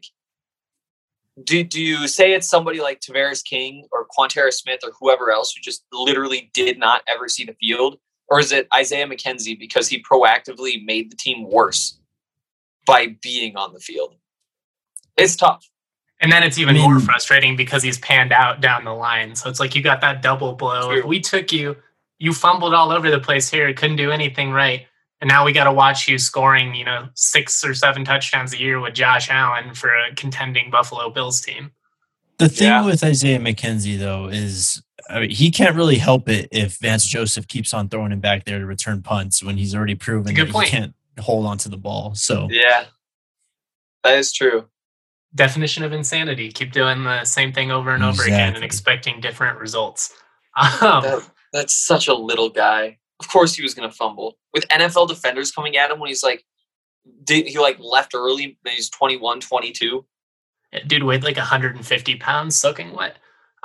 do you say it's somebody like Tavares King or Quanterra Smith or whoever else who just literally did not ever see the field? Or is it Isaiah McKenzie because he proactively made the team worse by being on the field? It's tough. And then it's even more frustrating because he's panned out down the line. So it's like you got that double blow. True. If we took you fumbled all over the place here, couldn't do anything right. And now we got to watch you scoring, 6 or 7 touchdowns a year with Josh Allen for a contending Buffalo Bills team. The thing with Isaiah McKenzie, though, is he can't really help it if Vance Joseph keeps on throwing him back there to return punts when he's already proven that he can't hold on to the ball. So yeah, that is true. Definition of insanity. Keep doing the same thing over and over again and expecting different results. That's such a little guy. Of course he was going to fumble. With NFL defenders coming at him when he's he left early when he's 21, 22. Dude weighed like 150 pounds soaking wet.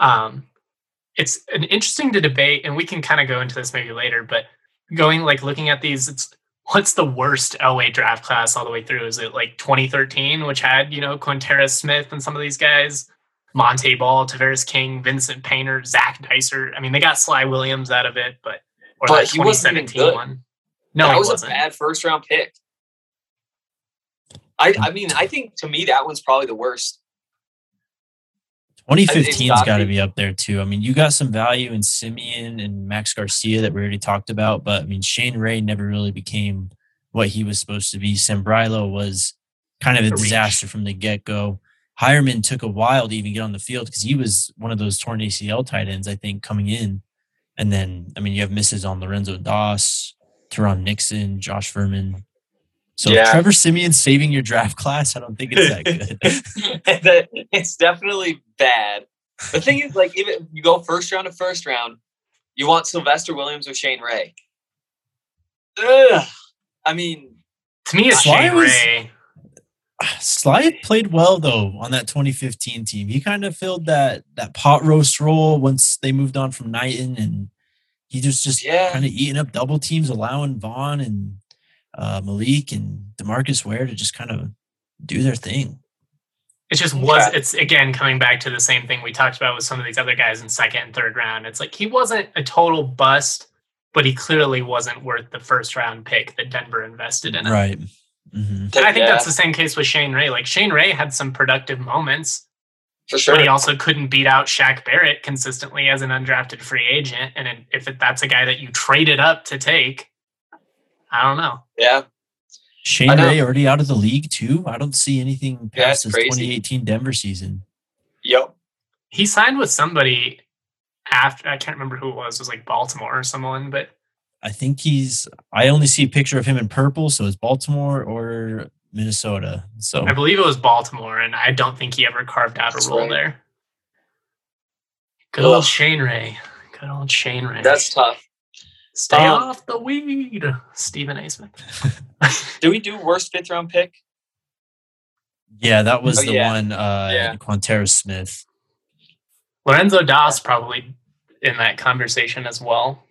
It's an interesting to debate, and we can kind of go into this maybe later, but looking at these, what's the worst Elway draft class all the way through? Is it like 2013, which had, Quanterra Smith and some of these guys, Monte Ball, Tavares King, Vincent Painter, Zach Dicer. I mean, they got Sly Williams out of it, but that he wasn't even good. one. No, that he was wasn't. a bad first round pick. I think to me that one's probably the worst. 2015's got to be up there too. I mean, you got some value in Simeon and Max Garcia that we already talked about, but I mean, Shane Ray never really became what he was supposed to be. Sambrailo was kind of a disaster from the get-go. Hireman took a while to even get on the field because he was one of those torn ACL tight ends, I think, coming in. And then, I mean, you have misses on Lorenzo Doss, Teron Nixon, Josh Furman. So Trevor Simeon saving your draft class, I don't think it's that good. It's definitely bad. The thing is, if you go first round to first round, you want Sylvester Williams or Shane Ray. Ugh. I mean, to me, it's Shane Ray. Sly played well, though, on that 2015 team. He kind of filled that pot roast role once they moved on from Knighton, and he just kind of eating up double teams, allowing Vaughn and Malik and DeMarcus Ware to just kind of do their thing. It just it's again coming back to the same thing we talked about with some of these other guys in second and third round. It's like he wasn't a total bust, but he clearly wasn't worth the first round pick that Denver invested in him. Right. Mm-hmm. And I think that's the same case with Shane Ray. Like Shane Ray had some productive moments, for sure, but he also couldn't beat out Shaq Barrett consistently as an undrafted free agent. And if that's a guy that you traded up to take, I don't know. Yeah. Shane Ray already out of the league too. I don't see anything past his 2018 Denver season. Yep. He signed with somebody after, I can't remember who it was like Baltimore or someone, but I think I only see a picture of him in purple, so it's Baltimore or Minnesota. So I believe it was Baltimore, and I don't think he ever carved out a role there. Good old Shane Ray. Good old Shane Ray. That's tough. Stay off the weed, Stephen A. Smith. Do we do worst 5th round pick? Yeah, that was one. Quanterra Smith. Lorenzo Das probably in that conversation as well.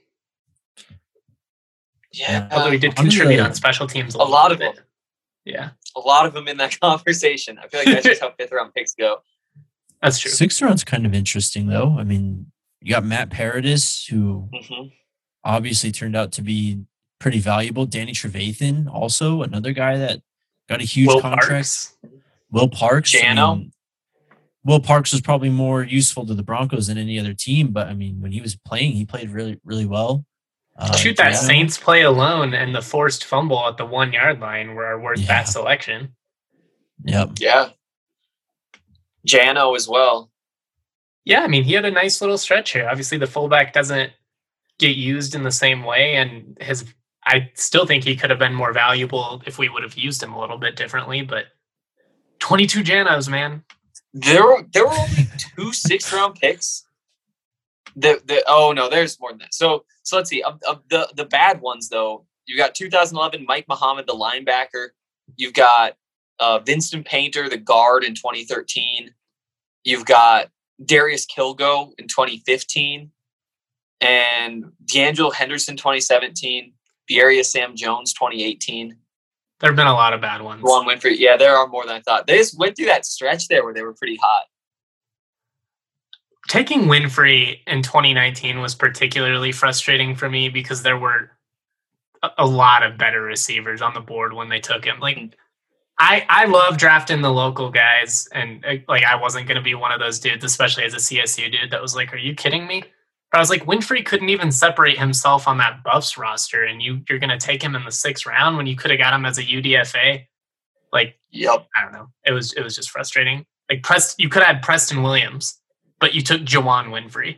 Yeah, although he did contribute on special teams. A lot of them. Yeah, a lot of them in that conversation. I feel like that's just how 5th round picks go. That's true. 6th round's kind of interesting, though. I mean, you got Matt Paradis, who obviously turned out to be pretty valuable. Danny Trevathan, also another guy that got a huge contract. Will Parks. Jano. I mean, Will Parks was probably more useful to the Broncos than any other team, but I mean, when he was playing, he played really, really well. Shoot, that Saints play alone and the forced fumble at the 1 yard line were worth that selection. Yep. Yeah. Jano as well. Yeah, I mean, he had a nice little stretch here. Obviously, the fullback doesn't get used in the same way, and I still think he could have been more valuable if we would have used him a little bit differently, but 22 Janos, man. There were only 2 6th round picks. Oh no, there's more than that. So let's see. The bad ones though, you got 2011 Mike Muhammad, the linebacker. You've got Vincent Painter, the guard in 2013. You've got Darius Kilgo in 2015, and D'Angelo Henderson 2017. Bierria Sam Jones 2018. There have been a lot of bad ones. Juwan Winfrey. Yeah, there are more than I thought. They just went through that stretch there where they were pretty hot. Taking Winfrey in 2019 was particularly frustrating for me because there were a lot of better receivers on the board when they took him. Like, I love drafting the local guys, and like I wasn't going to be one of those dudes, especially as a CSU dude, that was like, are you kidding me? But I was like, Winfrey couldn't even separate himself on that Buffs roster, and you're going to take him in the 6th round when you could have got him as a UDFA. Like, yep. I don't know. It was just frustrating. Like, you could have had Preston Williams, but you took Juwan Winfrey.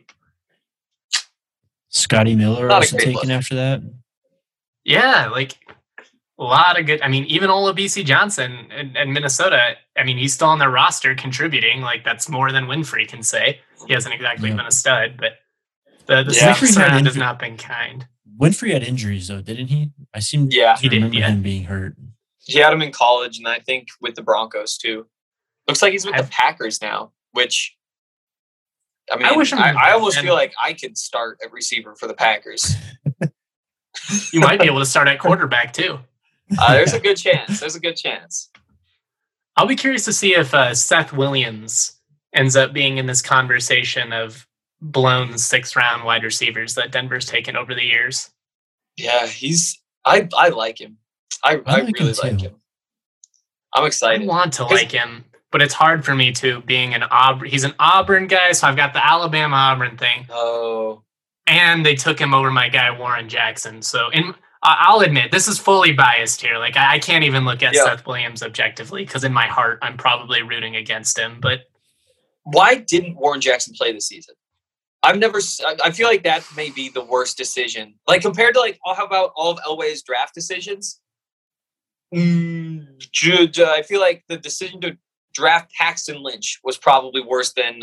Scotty Miller also taken after that. Yeah, like a lot of good. I mean, even Olabisi Johnson and Minnesota, I mean, he's still on their roster contributing. Like, that's more than Winfrey can say. He hasn't exactly been a stud, but the 6th round has not been kind. Winfrey had injuries, though, didn't he? I seem to remember him being hurt. He had him in college, and I think with the Broncos, too. Looks like he's with the Packers now, which, I mean, I almost feel like I could start at receiver for the Packers. You might be able to start at quarterback, too. There's a good chance. I'll be curious to see if Seth Williams ends up being in this conversation of blown 6th round wide receivers that Denver's taken over the years. Yeah, I like him. I really like him. I'm excited. I want to like him, but it's hard for me too, being an Auburn. He's an Auburn guy, so I've got the Alabama-Auburn thing. Oh. And they took him over my guy, Warren Jackson. So I'll admit, this is fully biased here. Like, I can't even look at Seth Williams objectively because in my heart, I'm probably rooting against him. But why didn't Warren Jackson play this season? I feel like that may be the worst decision. Like, compared to, like, how about all of Elway's draft decisions? I feel like the decision to draft Paxton Lynch was probably worse than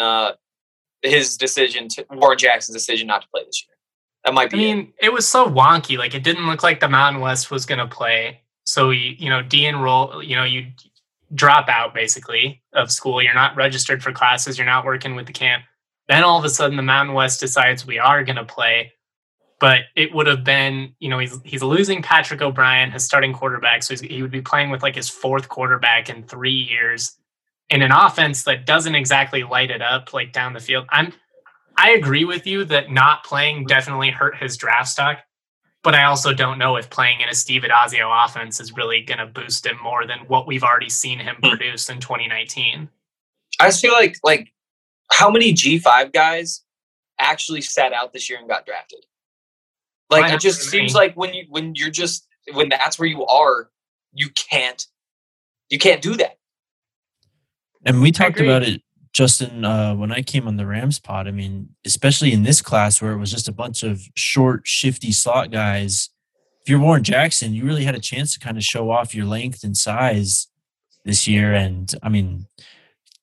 Warren Jackson's decision not to play this year. That might be. I mean, it was so wonky. Like, it didn't look like the Mountain West was going to play. So, de-enroll, you drop out basically of school. You're not registered for classes. You're not working with the camp. Then all of a sudden the Mountain West decides we are going to play. But it would have been, he's losing Patrick O'Brien, his starting quarterback. So he would be playing with like his 4th quarterback in 3 years in an offense that doesn't exactly light it up like down the field. I agree with you that not playing definitely hurt his draft stock, but I also don't know if playing in a Steve Addazio offense is really going to boost him more than what we've already seen him produce in 2019. I just feel like how many G5 guys actually sat out this year and got drafted? Like, it just seems like when that's where you are, you can't do that. And we talked about it, Justin, when I came on the Rams pod. I mean, especially in this class where it was just a bunch of short, shifty slot guys. If you're Warren Jackson, you really had a chance to kind of show off your length and size this year. And I mean,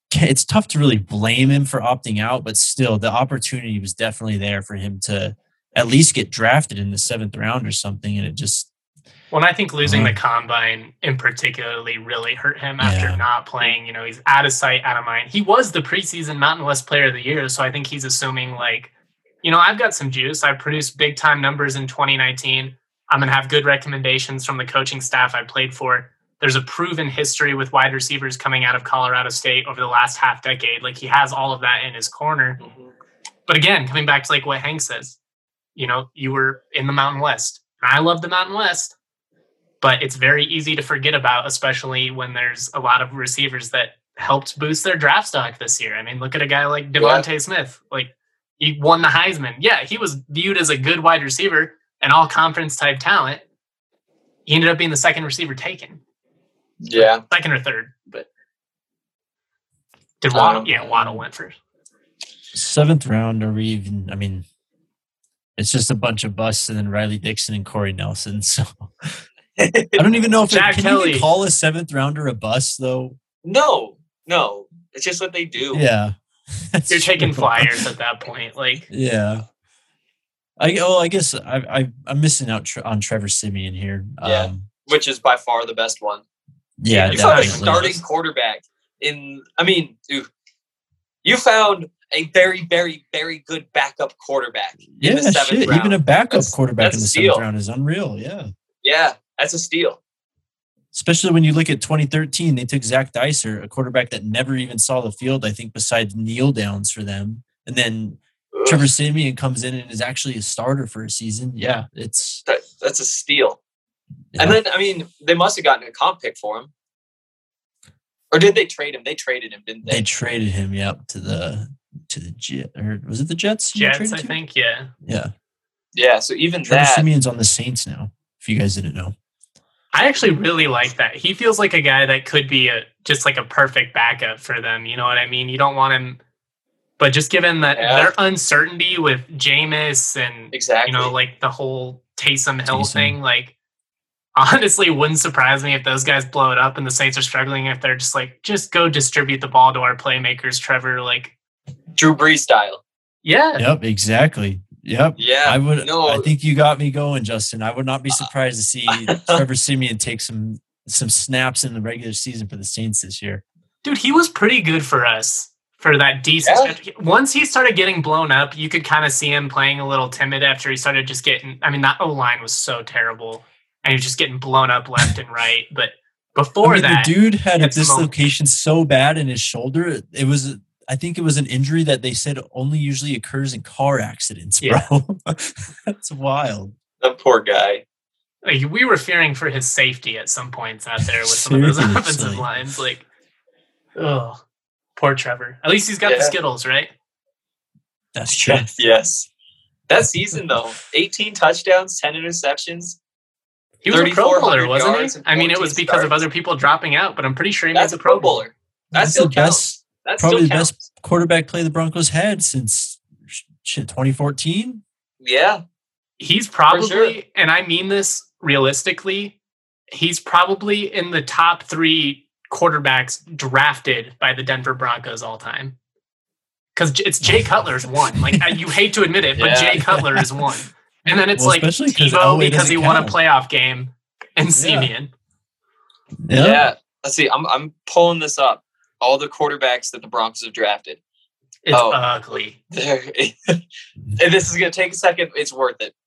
it's tough to really blame him for opting out, but still, the opportunity was definitely there for him to at least get drafted in the 7th round or something, and it just. Well, I think losing the combine in particularly really hurt him after not playing. You know, he's out of sight, out of mind. He was the preseason Mountain West Player of the Year, so I think he's assuming like, you know, I've got some juice. I've produced big time numbers in 2019. I'm going to have good recommendations from the coaching staff I played for. There's a proven history with wide receivers coming out of Colorado State over the last half decade. Like he has all of that in his corner. Mm-hmm. But again, coming back to like what Hank says, you know, you were in the Mountain West. I love the Mountain West. But it's very easy to forget about, especially when there's a lot of receivers that helped boost their draft stock this year. I mean, look at a guy like Devontae Smith. Like, he won the Heisman. Yeah, he was viewed as a good wide receiver and all-conference type talent. He ended up being the 2nd receiver taken. Yeah. 2nd or 3rd. But did Waddle? Yeah, Waddle went first. 7th round, or even, I mean, it's just a bunch of busts and then Riley Dixon and Corey Nelson, so... I don't even know if can you even call a 7th rounder a bust though. No, it's just what they do. Yeah, you're taking flyers at that point. Like, yeah. I guess I'm missing out on Trevor Siemian here. Yeah, which is by far the best one. Yeah, you found a starting quarterback in. I mean, dude, you found a very, very, very good backup quarterback in the 7th round. Even a backup quarterback in the 7th round is unreal. Yeah. Yeah. That's a steal. Especially when you look at 2013, they took Zach Dicer, a quarterback that never even saw the field, I think, besides kneel downs for them. And then Trevor Siemian comes in and is actually a starter for a season. Yeah, that's a steal. Yeah. And then, I mean, they must have gotten a comp pick for him. Or did they trade him? They traded him, didn't they? They traded him, yep, to the Jets. Or was it the Jets? Jets, I think, yeah. Yeah. Yeah, so even Trevor Siemian's on the Saints now, if you guys didn't know. I actually really like that. He feels like a guy that could be just like a perfect backup for them. You know what I mean? You don't want him, but just given that their uncertainty with Jameis and you know, like the whole Taysom Hill thing, like honestly, wouldn't surprise me if those guys blow it up and the Saints are struggling. If they're just like, just go distribute the ball to our playmakers, Trevor, like Drew Brees style. Yeah. Yep. Exactly. Yep. Yeah. I think you got me going, Justin. I would not be surprised to see Trevor Siemian take some snaps in the regular season for the Saints this year. Dude, he was pretty good for us for that decent. Yeah. Once he started getting blown up, you could kind of see him playing a little timid after he started just getting. I mean, that O-line was so terrible, and he was just getting blown up left and right. But before that, the dude had a dislocation so bad in his shoulder. I think it was an injury that they said only usually occurs in car accidents, bro. Yeah. That's wild. That poor guy. Like, we were fearing for his safety at some points out there with some of those offensive lines. Like, oh, poor Trevor. At least he's got the Skittles, right? That's true. Yes. That season, though, 18 touchdowns, 10 interceptions. He was a Pro Bowler, wasn't he? I mean, it was because of other people dropping out, but I'm pretty sure he made the Pro Bowler. That's the best. Probably the best quarterback play the Broncos had since 2014. Yeah. He's probably, and I mean this realistically, he's probably in the top 3 quarterbacks drafted by the Denver Broncos all time. Because it's Jay Cutler's one. Like, you hate to admit it, but Jay Cutler is one. And then it's like Tebow because he won a playoff game and Siemian. Yeah. Let's see. I'm pulling this up. All the quarterbacks that the Broncos have drafted. It's ugly. And this is going to take a second. It's worth it.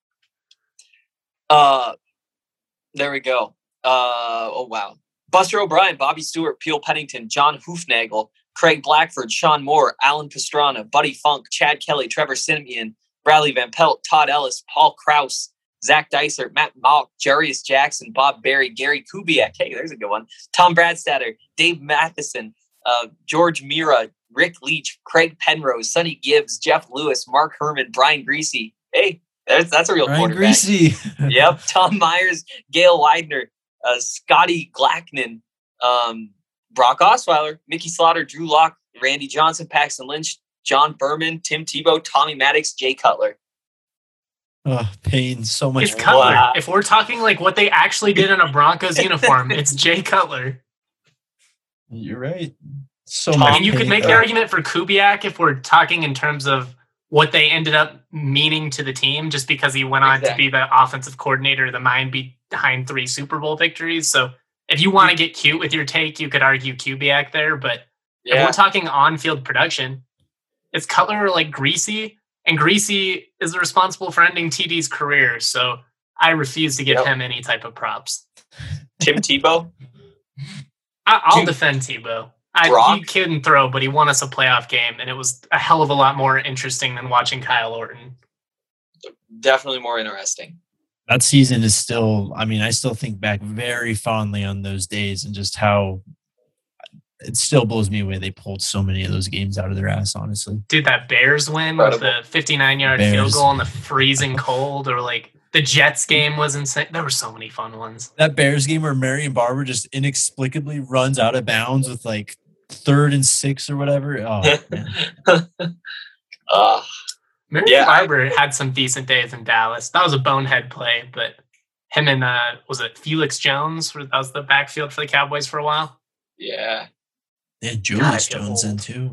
There we go. Oh, wow. Buster O'Brien, Bobby Stewart, Peel Pennington, John Hoofnagel, Craig Blackford, Sean Moore, Alan Pastrana, Buddy Funk, Chad Kelly, Trevor Siemian, Bradley Van Pelt, Todd Ellis, Paul Krause, Zach Dicer, Matt Malk, Jarius Jackson, Bob Berry, Gary Kubiak. Hey, there's a good one. Tom Bradstatter, Dave Matheson, George Mira, Rick Leach, Craig Penrose, Sonny Gibbs, Jeff Lewis, Mark Herman, Brian Greasy. Hey, that's a real Brian quarterback. Greasy. Yep. Tom Myers, Gail Widener, Scotty Glackman, Brock Osweiler, Mickey Slaughter, Drew Lock, Randy Johnson, Paxton Lynch, John Berman, Tim Tebow, Tommy Maddox, Jay Cutler. Oh, pain. So much. It's Cutler. Wow. If we're talking like what they actually did in a Broncos uniform, it's Jay Cutler. You're right. So Tom, I much mean, you could pain. make the argument for Kubiak if we're talking in terms of what they ended up meaning to the team, just because he went on to be the offensive coordinator, the mind behind 3 Super Bowl victories. So if you want to get cute with your take, you could argue Kubiak there. But if we're talking on-field production, it's Cutler like Greasy, and Greasy is responsible for ending TD's career. So I refuse to give him any type of props. Tim Tebow? I'll defend Tebow. He couldn't throw, but he won us a playoff game, and it was a hell of a lot more interesting than watching Kyle Orton. Definitely more interesting. That season is still, I mean, I still think back very fondly on those days and just how it still blows me away they pulled so many of those games out of their ass, honestly. Dude, that Bears win with the 59-yard field goal in the freezing cold, or like the Jets game was insane. There were so many fun ones. That Bears game where Marion Barber just inexplicably runs out of bounds with like 3rd and 6 or whatever. Oh, man. Marion Barber had some decent days in Dallas. That was a bonehead play, but him and, was it Felix Jones? That was the backfield for the Cowboys for a while. Yeah. Yeah, Julius Jones in too.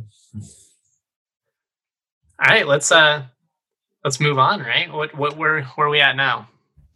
All right, let's move on, right? Where are we at now?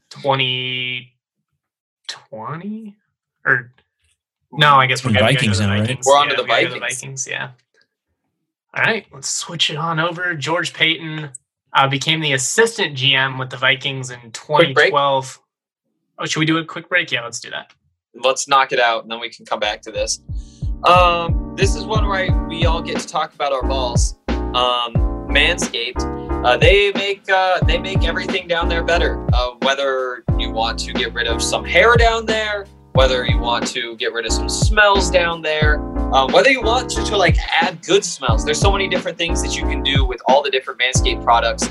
2020? Or no, I guess we're going to go to the Vikings. We're on to the Vikings. Yeah. All right, let's switch it on over. George Paton became the assistant GM with the Vikings in 2012. Oh, should we do a quick break? Yeah, let's do that. Let's knock it out, and then we can come back to this. This is one where we all get to talk about our balls. Manscaped. They make everything down there better. Whether you want to get rid of some hair down there, whether you want to get rid of some smells down there, whether you want to like add good smells. There's so many different things that you can do with all the different Manscaped products.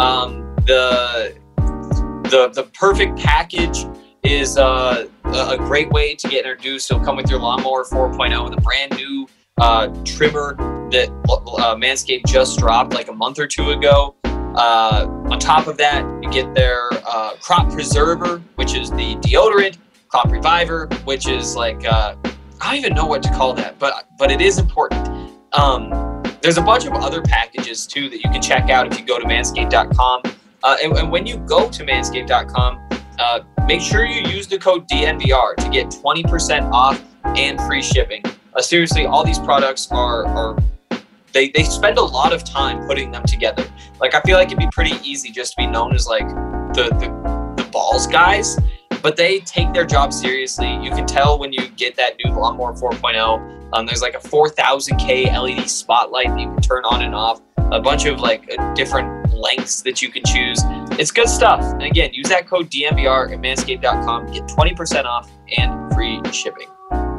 The perfect package is a great way to get introduced. It'll come with your Lawnmower 4.0 with a brand new trimmer that Manscaped just dropped like a month or two ago. On top of that, you get their Crop Preserver, which is the deodorant, Crop Reviver, which is like I don't even know what to call that, but it is important. There's a bunch of other packages too that you can check out if you go to manscaped.com. And when you go to manscaped.com, make sure you use the code DNVR to get 20% off and free shipping. Seriously, all these products they spend a lot of time putting them together. Like, I feel like it'd be pretty easy just to be known as like the balls guys, but they take their job seriously. You can tell when you get that new Lawnmower 4.0. There's like a 4000K LED spotlight that you can turn on and off. A bunch of like different lengths that you can choose. It's good stuff. And again, use that code DNVR at manscaped.com. Get 20% off and free shipping.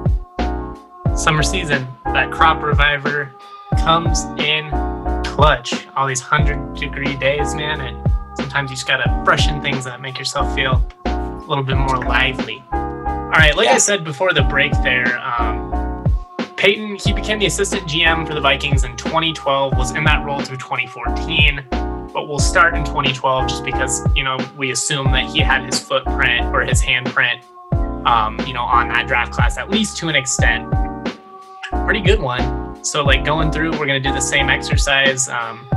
Summer season, that Crop Reviver comes in clutch. All these 100-degree days, man, and sometimes you just gotta freshen things up, make yourself feel a little bit more lively. All right, like I said before the break there, Paton, he became the assistant GM for the Vikings in 2012, was in that role through 2014, but we'll start in 2012 just because, we assume that he had his footprint or his handprint, on that draft class, at least to an extent. Pretty good one. So, like, going through, we're going to do the same exercise.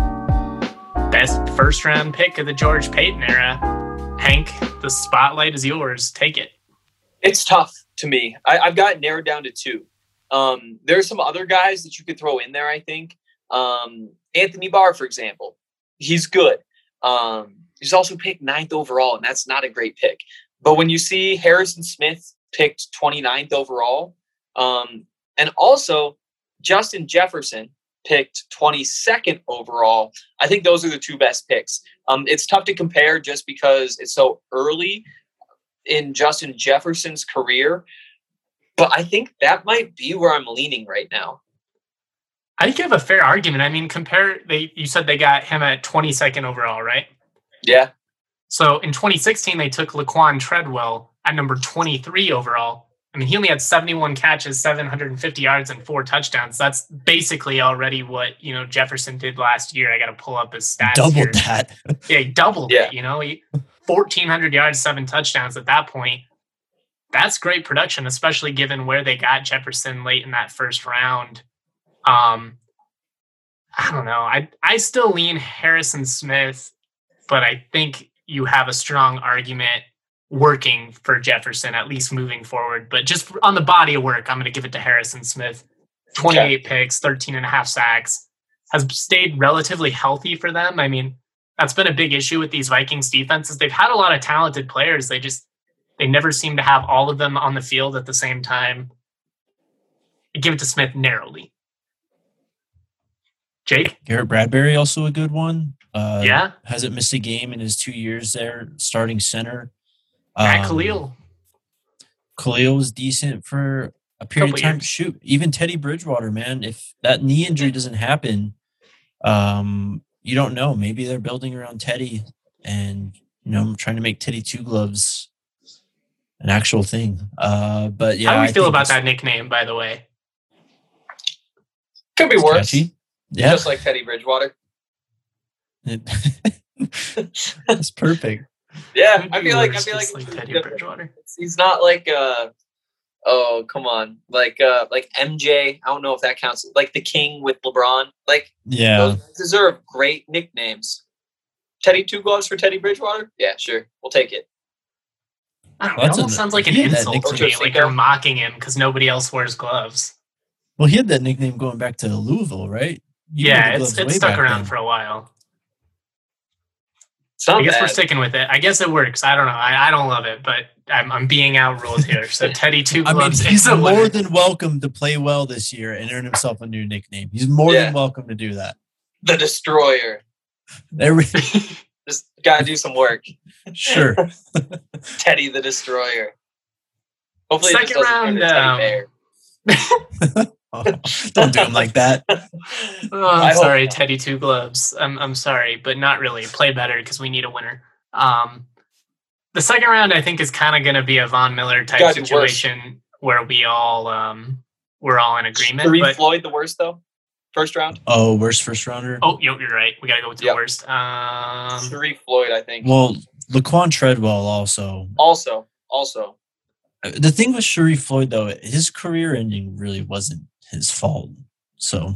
Best first-round pick of the George Paton era. Hank, the spotlight is yours. Take it. It's tough to me. I've got it narrowed down to 2. There's some other guys that you could throw in there, I think. Anthony Barr, for example. He's good. He's also picked 9th overall, and that's not a great pick. But when you see Harrison Smith picked 29th overall, and also Justin Jefferson picked 22nd overall, I think those are the 2 best picks. It's tough to compare just because it's so early in Justin Jefferson's career. But I think that might be where I'm leaning right now. I think you have a fair argument. I mean, you said they got him at 22nd overall, right? Yeah. So in 2016, they took Laquan Treadwell at number 23 overall. I mean, he only had 71 catches, 750 yards, and 4 touchdowns. That's basically already what, Jefferson did last year. I got to pull up his stats. Doubled that. Yeah, he doubled it, He 1,400 yards, 7 touchdowns at that point. That's great production, especially given where they got Jefferson late in that first round. I don't know. I still lean Harrison Smith, but I think you have a strong argument working for Jefferson, at least moving forward. But just on the body of work, I'm going to give it to Harrison Smith. 28 picks, 13 and a half sacks, has stayed relatively healthy for them. I mean, that's been a big issue with these Vikings defenses. They've had a lot of talented players. They never seem to have all of them on the field at the same time. I give it to Smith narrowly. Jake? Garrett Bradbury, also a good one. Yeah. Hasn't missed a game in his 2 years there, starting center. Matt Khalil. Khalil was decent for a period of time. Years. Shoot, even Teddy Bridgewater, man. If that knee injury doesn't happen, you don't know. Maybe they're building around Teddy and, trying to make Teddy Two Gloves an actual thing. But yeah. How do we feel about that nickname, by the way? Could be worse. Catchy. Yeah. Just like Teddy Bridgewater. That's perfect. Yeah, I feel like Teddy Bridgewater. He's not like oh, come on. Like MJ, I don't know if that counts. Like the King with LeBron. Like, yeah. Those guys deserve great nicknames. Teddy Two Gloves for Teddy Bridgewater? Yeah, sure. We'll take it. I don't know. It almost sounds like an insult to me. Like you're mocking him because nobody else wears gloves. Well, he had that nickname going back to Louisville, right? It's stuck around for a while. I guess we're sticking with it. I guess it works. I don't know. I don't love it, but I'm being outruled here. So Teddy Two Gloves he's more than welcome to play well this year and earn himself a new nickname. He's more than welcome to do that. The Destroyer. Just gotta do some work. Sure. Teddy the Destroyer. Hopefully, second round. Teddy Bear. Oh, don't do him like that. I'm sorry, Teddy Two Gloves. I'm sorry, but not really. Play better because we need a winner. The second round, I think, is kind of going to be a Von Miller type situation where we're all in agreement. Sharif Floyd the worst though? First round? Oh, worst first rounder? Oh, you're right. We got to go with the worst. Sharif Floyd, I think. Well, Laquan Treadwell also. Also. The thing with Sharif Floyd, though, his career ending really wasn't his fault. So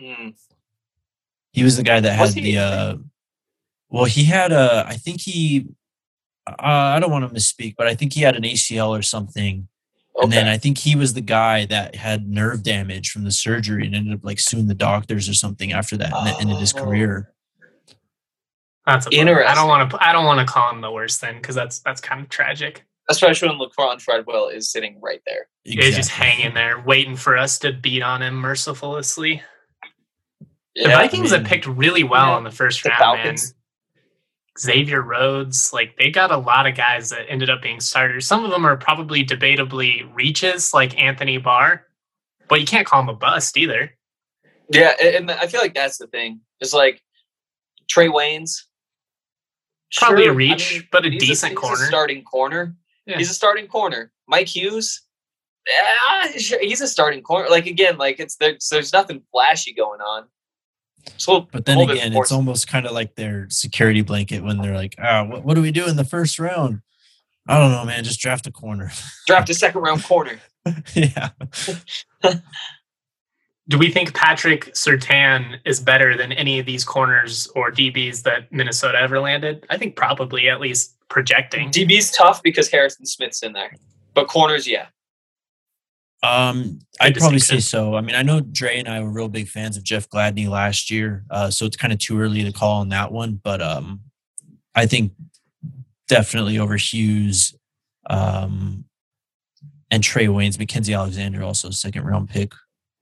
he was the guy that had he had I think he, I don't want to misspeak, but I think he had an ACL or something. Okay. And then I think he was the guy that had nerve damage from the surgery and ended up like suing the doctors or something after that, and that ended his career. That's interesting. I don't want to call him the worst then, because that's kind of tragic. Especially when Laquan Treadwell is sitting right there. Exactly. He's just hanging there, waiting for us to beat on him mercilessly. Yeah, the Vikings have picked really well in the first round, man. Xavier Rhodes, like they got a lot of guys that ended up being starters. Some of them are probably debatably reaches, like Anthony Barr, but you can't call him a bust either. Yeah, and I feel like that's the thing. It's like Trey Waynes. Probably a reach, but a decent corner. He's a starting corner. Yeah. He's a starting corner. Mike Hughes, he's a starting corner. Like again, like there's nothing flashy going on. So, but then again, it's almost kind of like their security blanket when they're like, what do we do in the first round? I don't know, man. Just draft a corner. Draft a second round corner. Yeah. Do we think Patrick Surtain is better than any of these corners or DBs that Minnesota ever landed? I think probably, at least projecting. DB's tough because Harrison Smith's in there, but corners, yeah. I'd probably say so. I mean, I know Dre and I were real big fans of Jeff Gladney last year, so it's kind of too early to call on that one. But I think definitely over Hughes and Trey Waynes, Mackenzie Alexander also a second round pick.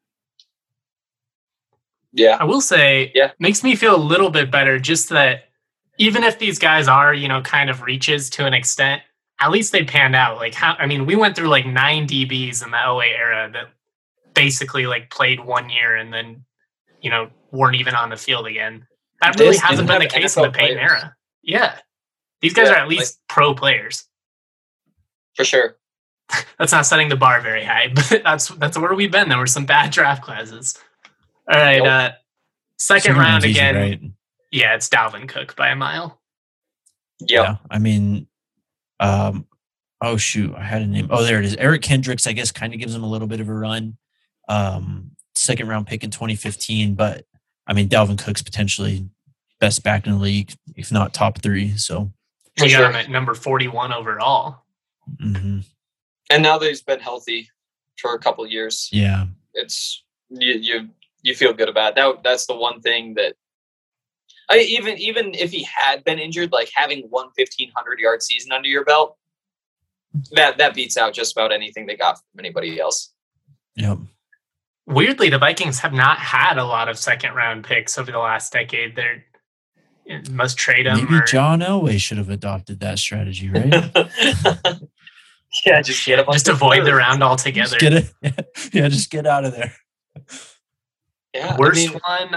Yeah, I will say, makes me feel a little bit better just that even if these guys are, kind of reaches to an extent, at least they panned out. Like, we went through like 9 DBs in the LA era that basically like played 1 year and then, weren't even on the field again. That really hasn't been the case in the Peyton era. Yeah. These guys are at least pro players. For sure. That's not setting the bar very high, but that's where we've been. There were some bad draft classes. All right. Second round again. Right? Yeah, it's Dalvin Cook by a mile. Yep. Yeah. I mean, oh shoot, I had a name. Oh, there it is. Eric Kendricks, I guess, kind of gives him a little bit of a run. second round pick in 2015, but I mean, Dalvin Cook's potentially best back in the league, if not top 3. So we got him at number 41 overall. Mm-hmm. And now that he's been healthy for a couple of years, yeah, it's you feel good about it. That's the one thing that even if he had been injured, like having one 1,500-yard season under your belt, that beats out just about anything they got from anybody else. Yep. Weirdly, the Vikings have not had a lot of second-round picks over the last decade. They must trade them. Maybe John Elway should have adopted that strategy, right? Yeah, just avoid the round altogether. Just get out of there. Yeah, worst one.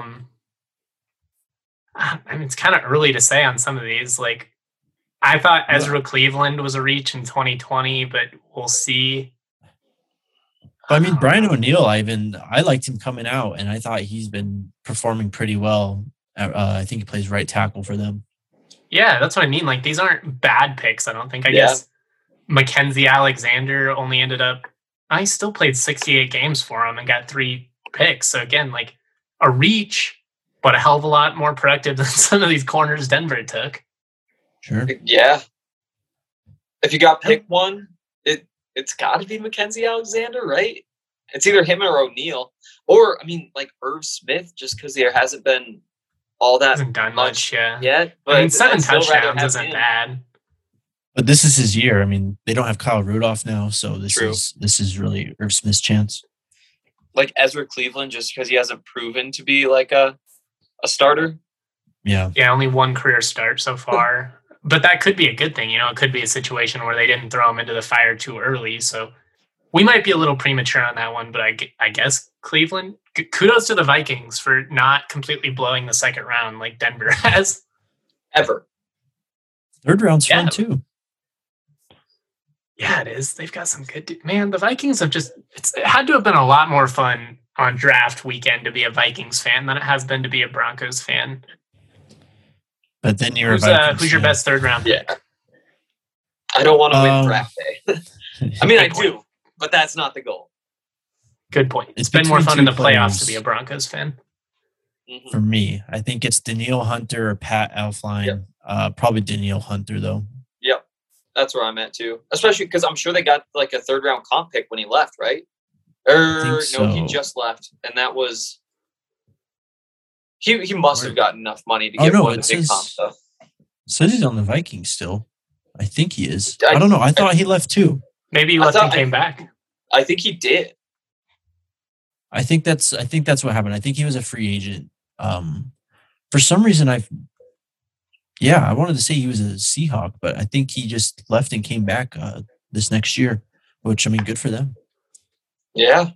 I mean, it's kind of early to say on some of these. Like, I thought Ezra Cleveland was a reach in 2020, but we'll see. I mean, Brian O'Neill, I liked him coming out, and I thought he's been performing pretty well. I think he plays right tackle for them. Yeah, that's what I mean. Like, these aren't bad picks, I don't think. I guess Mackenzie Alexander only ended up – I still played 68 games for him and got 3 picks. So, again, like, a reach, but a hell of a lot more productive than some of these corners Denver took. Sure. Yeah. If you got pick one, it's got to be Mackenzie Alexander, right? It's either him or O'Neal. Or, I mean, like Irv Smith, just because there hasn't been all that hasn't done much yet. But I mean, 7 touchdowns isn't bad. But this is his year. I mean, they don't have Kyle Rudolph now, so this is really Irv Smith's chance. Like Ezra Cleveland, just because he hasn't proven to be like a starter. Yeah. Yeah, only 1 career start so far. But that could be a good thing. You know, it could be a situation where they didn't throw him into the fire too early. So we might be a little premature on that one. But I guess Cleveland, kudos to the Vikings for not completely blowing the second round like Denver has. Ever. Third round's fun too. Yeah, it is. They've got some good... Man, the Vikings have it had to have been a lot more fun on draft weekend to be a Vikings fan than it has been to be a Broncos fan. But then you're who's your best third round pick? Yeah. I don't want to win draft day. I mean, I do, but that's not the goal. Good point. It's been more fun in the playoffs to be a Broncos fan. Mm-hmm. For me, I think it's Danielle Hunter or Pat Elflein. Yep. Probably Danielle Hunter, though. Yep. That's where I'm at, too. Especially because I'm sure they got like a third-round comp pick when he left, right? No, he just left. And that was... He must have gotten enough money to get one of the big comp stuff. Says he's on the Vikings still. I think he is. I don't know. I thought he left too. Maybe he left and came back. I think he did. I think that's what happened. I think he was a free agent. For some reason, I wanted to say he was a Seahawk, but I think he just left and came back this next year. Which, I mean, good for them. Yeah.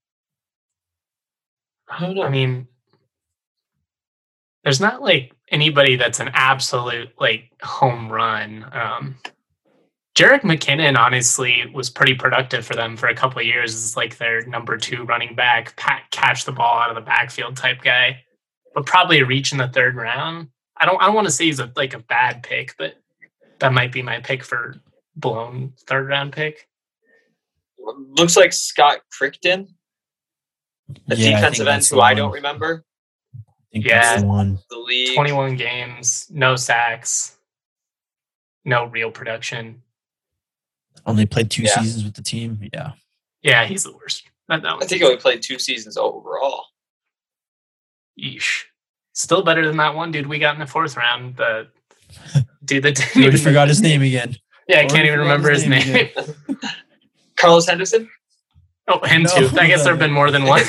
I don't know. I mean, there's not like anybody that's an absolute like home run. Jerick McKinnon honestly was pretty productive for them for a couple of years as like their number 2 running back, catch the ball out of the backfield type guy, but probably a reach in the third round. I don't want to say he's a bad pick, but that might be my pick for blown third round pick. Looks like Scott Crichton, a defensive end who I don't remember. Yeah, the league. 21 games, no sacks, no real production. Only played 2 seasons with the team. Yeah. Yeah, he's the worst. I think he only played 2 seasons overall. Yeesh. Still better than that one dude we got in the 4th round. The dude that didn't even forgot his name again. Yeah, I can't even remember his name. Carlos Henderson? Oh, him too. I guess there have been more than one.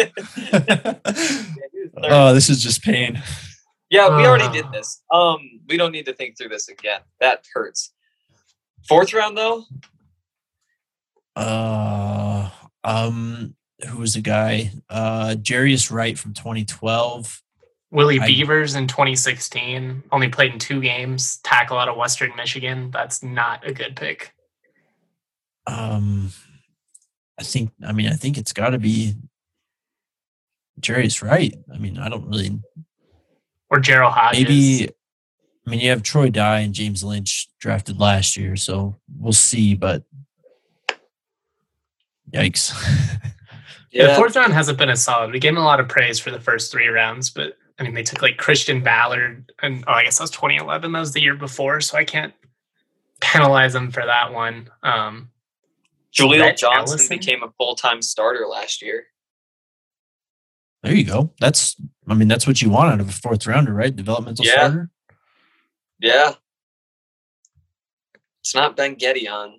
Oh, this is just pain. Yeah, we already did this. We don't need to think through this again. That hurts. 4th round though? Who was the guy? Jarius Wright from 2012. Willie Beavers in 2016. Only played in 2 games. Tackle out of Western Michigan. That's not a good pick. I think it's got to be Jarius Wright. I mean, I don't really. Or Gerald Hodges. Maybe. I mean, you have Troy Dye and James Lynch drafted last year, so we'll see. But yikes! The fourth round hasn't been as solid. We gave him a lot of praise for the first 3 rounds, but I mean, they took like Christian Ballard, and I guess that was 2011. That was the year before, so I can't penalize them for that one. Jaleel Johnson became a full-time starter last year. There you go. That's what you want out of a fourth rounder, right? Developmental starter. Yeah. It's not Ben Gedeon.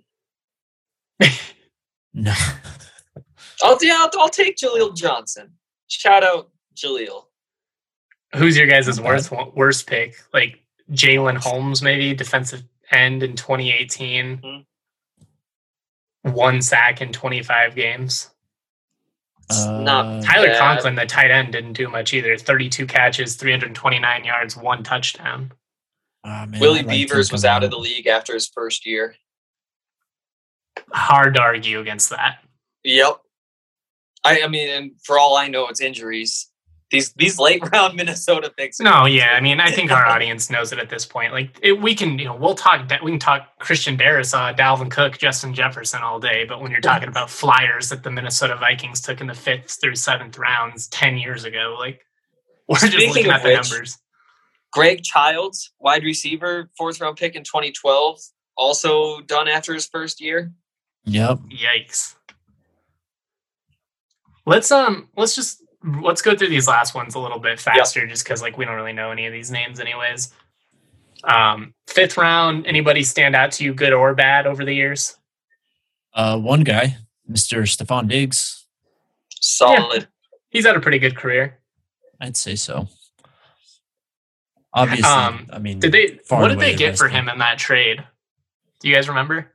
No. I'll take Jaleel Johnson. Shout out Jaleel. Who's your guys' worst pick? Like Jalen Holmes, maybe defensive end in 2018. Mm-hmm. 1 sack in 25 games. Not Tyler bad. Conklin, the tight end, didn't do much either. 32 catches, 329 yards, 1 touchdown. Man, Willie Beavers was out of the league after his first year. Hard to argue against that. Yep. I mean, and for all I know, it's injuries. These late round Minnesota picks. No, yeah. I mean, I think our audience knows it at this point. Like we can talk Christian Darrisaw, Dalvin Cook, Justin Jefferson all day, but when you're talking about flyers that the Minnesota Vikings took in the 5th through 7th rounds 10 years ago, like we're just looking at the numbers. Greg Childs, wide receiver, 4th round pick in 2012, also done after his first year. Yep. Yikes. Let's go through these last ones a little bit faster, just because like we don't really know any of these names anyways. 5th round, anybody stand out to you, good or bad, over the years? One guy, Mr. Stephon Diggs. Solid. Yeah, he's had a pretty good career. I'd say so. Obviously, I mean, what did they get for him in that trade? Do you guys remember?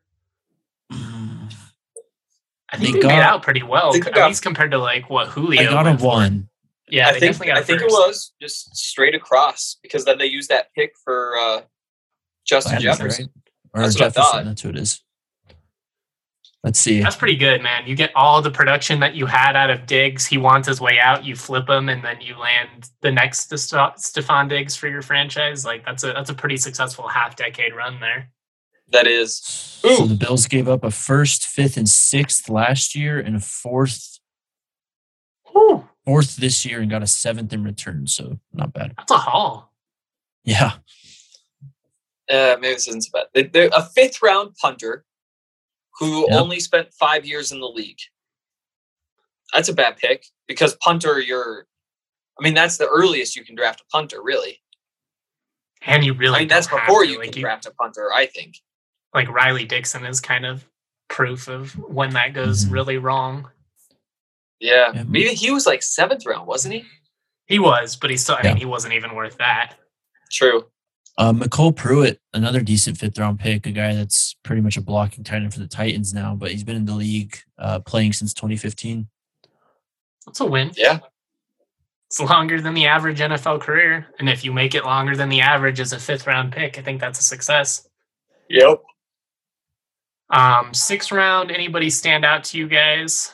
I think they made out pretty well, at least compared to like what Julio. They got a 1. Yeah, I think it was just straight across, because then they used that pick for Justin Jefferson. Right? Or that's Jefferson. That's who it is. Let's see. That's pretty good, man. You get all the production that you had out of Diggs. He wants his way out. You flip him, and then you land the next Stephon Diggs for your franchise. Like that's a pretty successful half-decade run there. That is. So the Bills gave up a 1st, 5th, and 6th last year, and a 4th this year, and got a 7th in return. So not bad. That's a haul. Yeah. Maybe this isn't so bad. They're a 5th round punter who only spent 5 years in the league. That's a bad pick, because punter, that's the earliest you can draft a punter, really. And you really, that's before you can draft a punter, I think. Like Riley Dixon is kind of proof of when that goes really wrong. Yeah. Maybe he was like 7th round, wasn't he? He was, but he still, I mean, he wasn't even worth that. True. McCole Pruitt, another decent 5th round pick, a guy that's pretty much a blocking tight end for the Titans now, but he's been in the league playing since 2015. That's a win. Yeah. It's longer than the average NFL career. And if you make it longer than the average as a 5th round pick, I think that's a success. Yep. 6th round, anybody stand out to you guys?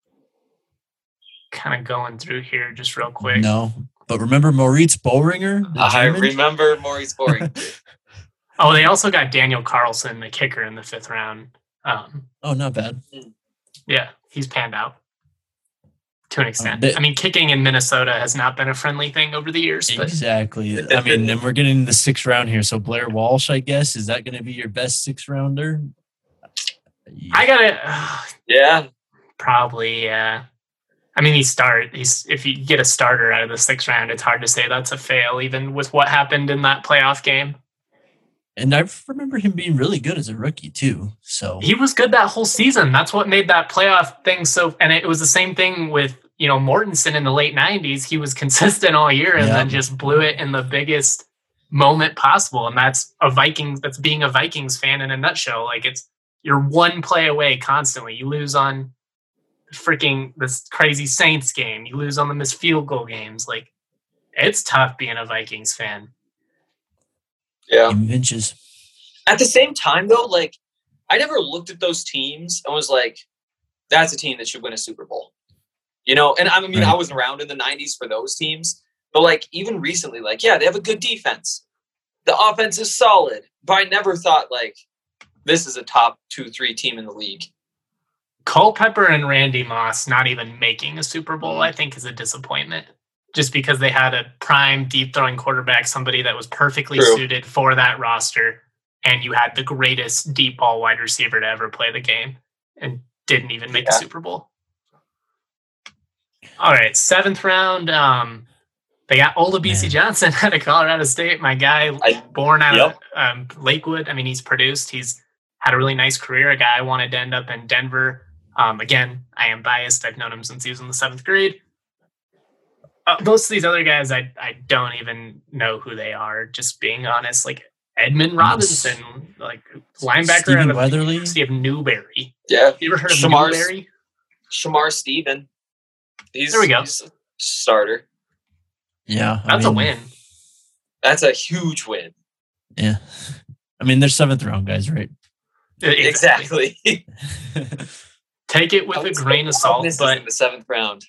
Kind of going through here just real quick. No, but remember Moritz Boehringer? I remember Moritz Boehringer. Oh, they also got Daniel Carlson, the kicker, in the 5th round. Not bad. Yeah, he's panned out to an extent. I mean, kicking in Minnesota has not been a friendly thing over the years. But. Exactly. I mean, and we're getting the 6th round here. So Blair Walsh, I guess, is that going to be your best 6th rounder? I got it. Yeah. Probably, yeah. I mean, if you get a starter out of the 6th round, it's hard to say that's a fail, even with what happened in that playoff game. And I remember him being really good as a rookie too. So he was good that whole season. That's what made that playoff thing so. And it was the same thing with Mortensen in the late 90s. He was consistent all year and then just blew it in the biggest moment possible. And that's that's being a Vikings fan in a nutshell. Like you're one play away constantly. You lose on freaking this crazy Saints game. You lose on the missed field goal games. Like it's tough being a Vikings fan. Yeah. Inches. At the same time, though, like I never looked at those teams and was like, "That's a team that should win a Super Bowl." And I mean, I wasn't around in the '90s for those teams, but like even recently, like they have a good defense, the offense is solid, but I never thought like this is a top 2-3 team in the league. Culpepper and Randy Moss not even making a Super Bowl, I think, is a disappointment. Just because they had a prime deep throwing quarterback, somebody that was perfectly suited for that roster, and you had the greatest deep ball wide receiver to ever play the game and didn't even make a Super Bowl. All right, 7th round. They got Olabisi Johnson out of Colorado State. My guy, born out of Lakewood. I mean, he's produced. He's had a really nice career. A guy I wanted to end up in Denver. Again, I am biased. I've known him since he was in the 7th grade. Most of these other guys, I don't even know who they are, just being honest. Like Edmund Robinson, like linebacker Stephen out of Weatherly. University of Newberry. Yeah. You ever heard of Newberry? Shamar Stephen. There we go. He's a starter. Yeah. That's a win. That's a huge win. Yeah. I mean, they're 7th round guys, right? Exactly. Take it with a grain of salt, but in the 7th round.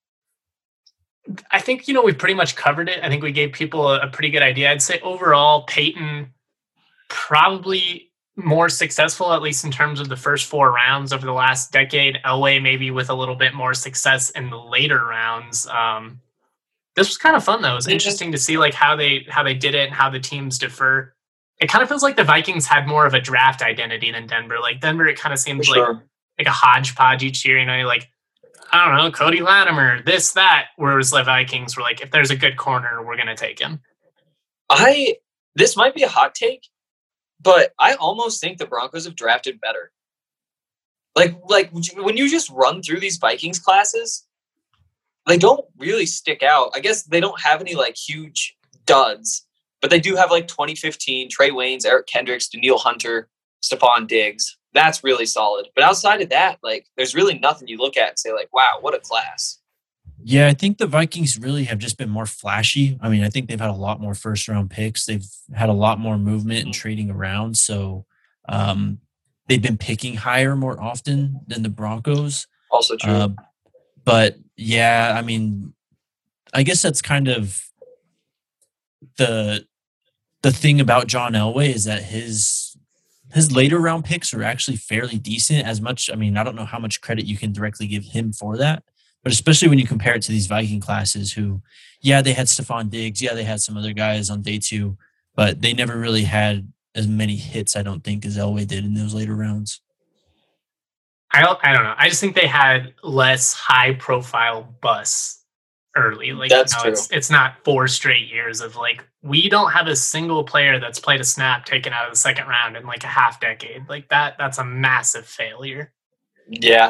I think, we've pretty much covered it. I think we gave people a pretty good idea. I'd say overall, Peyton probably more successful, at least in terms of the first 4 rounds over the last decade. Elway maybe with a little bit more success in the later rounds. This was kind of fun, though. It was interesting to see like how they did it and how the teams differ. It kind of feels like the Vikings had more of a draft identity than Denver. Like Denver, it kind of seems like a hodgepodge each year. Like, I don't know, Cody Latimer, this, that. Whereas the Vikings were like, if there's a good corner, we're going to take him. This might be a hot take, but I almost think the Broncos have drafted better. Like when you just run through these Vikings classes, they don't really stick out. I guess they don't have any like huge duds, but they do have like 2015 Trey Waynes, Eric Kendricks, Daniil Hunter, Stephon Diggs. That's really solid. But outside of that, like there's really nothing you look at and say like, wow, what a class. Yeah, I think the Vikings really have just been more flashy. I mean, I think they've had a lot more 1st round picks. They've had a lot more movement and trading around. So they've been picking higher more often than the Broncos. Also true. But yeah, I mean, I guess that's kind of the thing about John Elway is that his later round picks are actually fairly decent. As much, I mean, I don't know how much credit you can directly give him for that, but especially when you compare it to these Viking classes who, yeah, they had Stephon Diggs. Yeah, they had some other guys on day 2, but they never really had as many hits, I don't think, as Elway did in those later rounds. I don't know. I just think they had less high-profile busts early. Like, that's true. It's not 4 straight years of like, we don't have a single player that's played a snap taken out of the 2nd round in like a half decade. Like that's a massive failure. Yeah.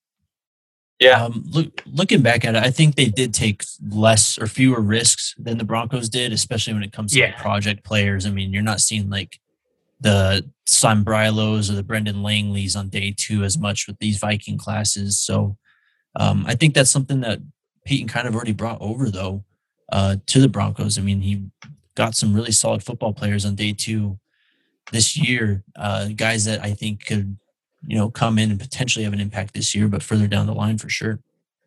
Looking back at it, I think they did take less or fewer risks than the Broncos did, especially when it comes to like project players. I mean, you're not seeing like the Sam Brylos or the Brendan Langleys on day 2 as much with these Viking classes. So I think that's something that Peyton kind of already brought over, though, to the Broncos. I mean, he got some really solid football players on day 2 this year, guys that I think could, come in and potentially have an impact this year, but further down the line for sure.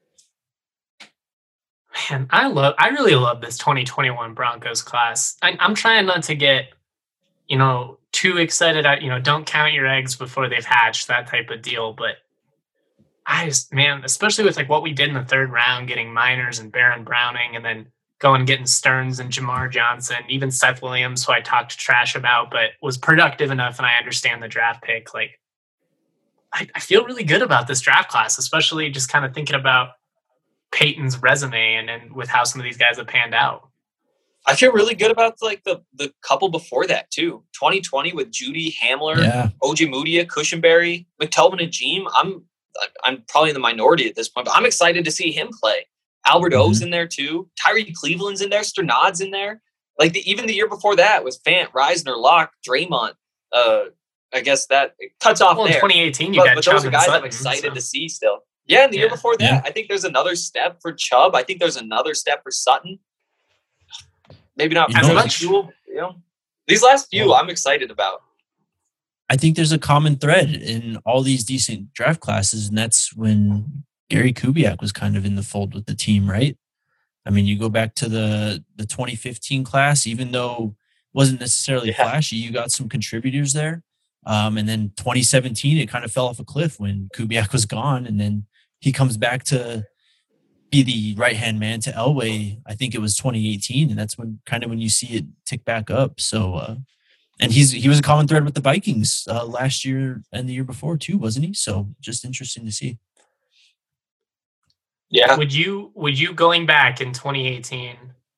Man, I really love this 2021 Broncos class. I'm trying not to get, too excited. Don't count your eggs before they've hatched, that type of deal. But especially with like what we did in the 3rd round, getting Miners and Baron Browning, and then going getting Stearns and Jamar Johnson, even Seth Williams, who I talked trash about, but was productive enough, and I understand the draft pick. Like, I feel really good about this draft class, especially just kind of thinking about Peyton's resume and with how some of these guys have panned out. I feel really good about like the couple before that too. 2020 with Judy, Hamler, Ojemudia, Cushenberry, McTelvin, and Jeem. I'm probably in the minority at this point, but I'm excited to see him play. Albert O's in there too. Tyree Cleveland's in there. Sternad's in there. Like even the year before that was Fant, Reisner, Locke, Draymond. I guess that it cuts off there. In 2018, but those are guys I'm excited to see still. Yeah, and the year before that, I think there's another step for Chubb. I think there's another step for Sutton. Maybe not as much. These last few, I'm excited about. I think there's a common thread in all these decent draft classes, and that's when Gary Kubiak was kind of in the fold with the team, right? I mean, you go back to the 2015 class, even though it wasn't necessarily flashy, you got some contributors there. And then 2017, it kind of fell off a cliff when Kubiak was gone. And then he comes back to be the right-hand man to Elway. I think it was 2018. And that's when you see it tick back up. So, and he was a common thread with the Vikings last year and the year before too, wasn't he? So just interesting to see. Yeah. Would you going back in 2018,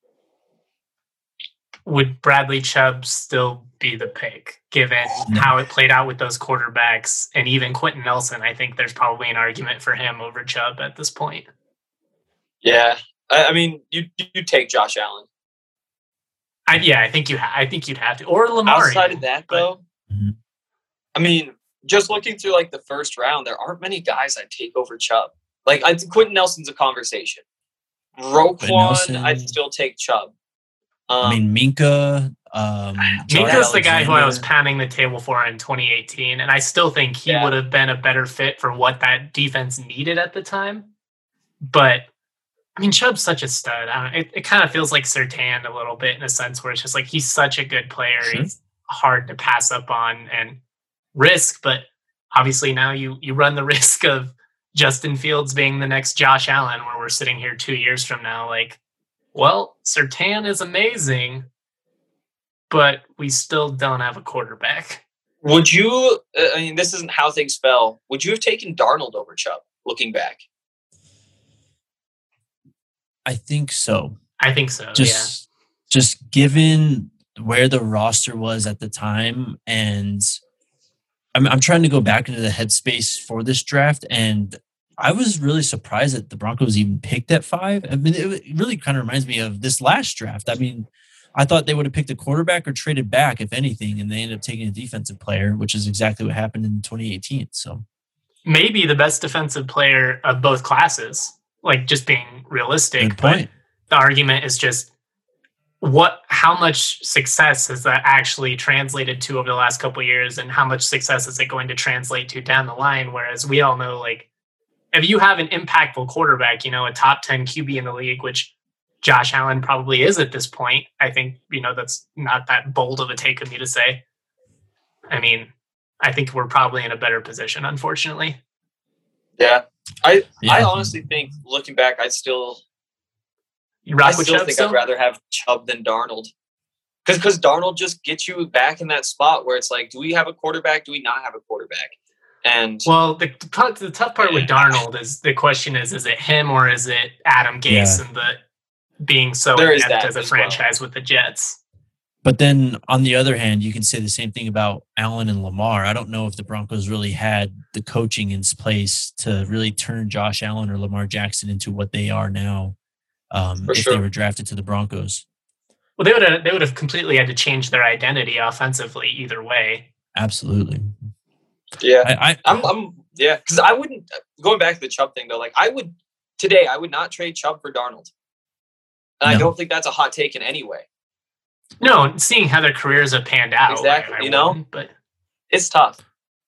would Bradley Chubb still be the pick given how it played out with those quarterbacks and even Quentin Nelson? I think there's probably an argument for him over Chubb at this point. Yeah. I mean, you take Josh Allen. I think you'd have to, or Lamar. Outside of that, though, I mean, just looking through like the first round, there aren't many guys I'd take over Chubb. Like, I think Quentin Nelson's a conversation. Roquan, I'd still take Chubb. I mean, Minka. Minka's the guy who I was pounding the table for in 2018, and I still think he would have been a better fit for what that defense needed at the time. But I mean, Chubb's such a stud. It kind of feels like Surtain a little bit in a sense where it's just like he's such a good player. Sure. He's hard to pass up on and risk, but obviously now you run the risk of Justin Fields being the next Josh Allen, where we're sitting here 2 years from now, like, well, Surtain is amazing, but we still don't have a quarterback. Would you, I mean, this isn't how things fell. Would you have taken Darnold over Chubb, looking back? I think so. Just given where the roster was at the time, and I'm trying to go back into the headspace for this draft, and I was really surprised that the Broncos even picked at 5. I mean, it really kind of reminds me of this last draft. I mean, I thought they would have picked a quarterback or traded back, if anything, and they ended up taking a defensive player, which is exactly what happened in 2018. So maybe the best defensive player of both classes, like just being realistic. Good point. But the argument is just how much success has that actually translated to over the last couple of years, and how much success is it going to translate to down the line? Whereas we all know, like, if you have an impactful quarterback, a top 10 QB in the league, which Josh Allen probably is at this point, I think, that's not that bold of a take of me to say. I mean, I think we're probably in a better position, unfortunately. Yeah. I honestly think, looking back, I'd still think I'd rather have Chubb than Darnold. Because Darnold just gets you back in that spot where it's like, do we have a quarterback? Do we not have a quarterback? And well, the tough part with Darnold is the question is it him or is it Adam Gase and the being so inept as a franchise with the Jets? But then on the other hand, you can say the same thing about Allen and Lamar. I don't know if the Broncos really had the coaching in place to really turn Josh Allen or Lamar Jackson into what they are now. If they were drafted to the Broncos. Well, they would have completely had to change their identity offensively either way. Absolutely. Yeah. Because I wouldn't, going back to the Chubb thing though, like I would not trade Chubb for Darnold. And I don't think that's a hot take in any way. No, seeing how their careers have panned out. Exactly, but it's tough.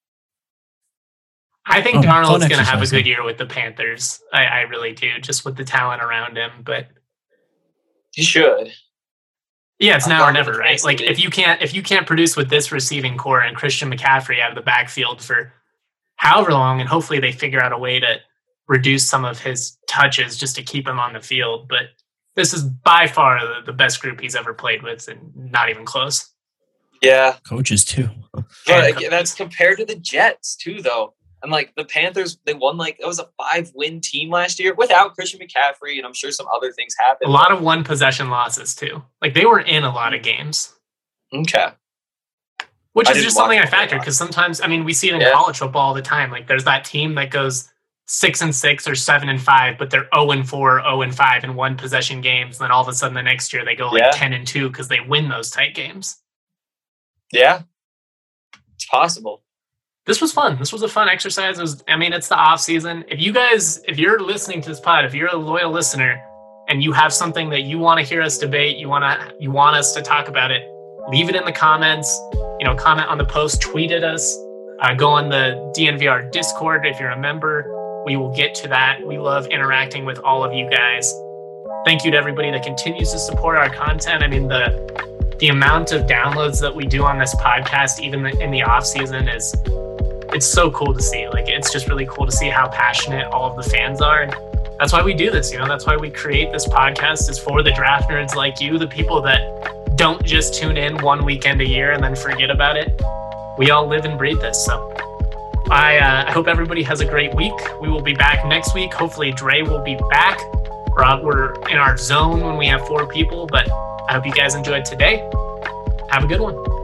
I think Darnold's going to have a good year with the Panthers. I really do, just with the talent around him. But he should. Yeah, it's now or never, right? Like if you can't produce with this receiving core and Christian McCaffrey out of the backfield for however long, and hopefully they figure out a way to reduce some of his touches just to keep him on the field. But this is by far the best group he's ever played with, and not even close. Yeah, coaches too. But that's compared to the Jets too, though. And like the Panthers, they won it was a 5-win team last year without Christian McCaffrey, and I'm sure some other things happened. A lot of one possession losses too. Like they were in a lot of games. Okay. Which is just something I factor because sometimes, I mean, we see it in college football all the time. Like there's that team that goes 6-6 or 7-5, but they're 0-4, 0-5 in one possession games. And then all of a sudden the next year they go 10-2 because they win those tight games. Yeah, it's possible. This was fun. This was a fun exercise. It's the off season. If you're listening to this pod, if you're a loyal listener and you have something that you want to hear us debate, you want us to talk about it, leave it in the comments, comment on the post, tweet at us, go on the DNVR Discord. If you're a member, we will get to that. We love interacting with all of you guys. Thank you to everybody that continues to support our content. I mean, the the amount of downloads that we do on this podcast, even in the off season, it's so cool to see. Like, it's just really cool to see how passionate all of the fans are. And that's why we do this. That's why we create this podcast, is for the draft nerds like you, the people that don't just tune in one weekend a year and then forget about it. We all live and breathe this. So I hope everybody has a great week. We will be back next week. Hopefully Dre will be back. We're in our zone when we have 4 people, but I hope you guys enjoyed today. Have a good one.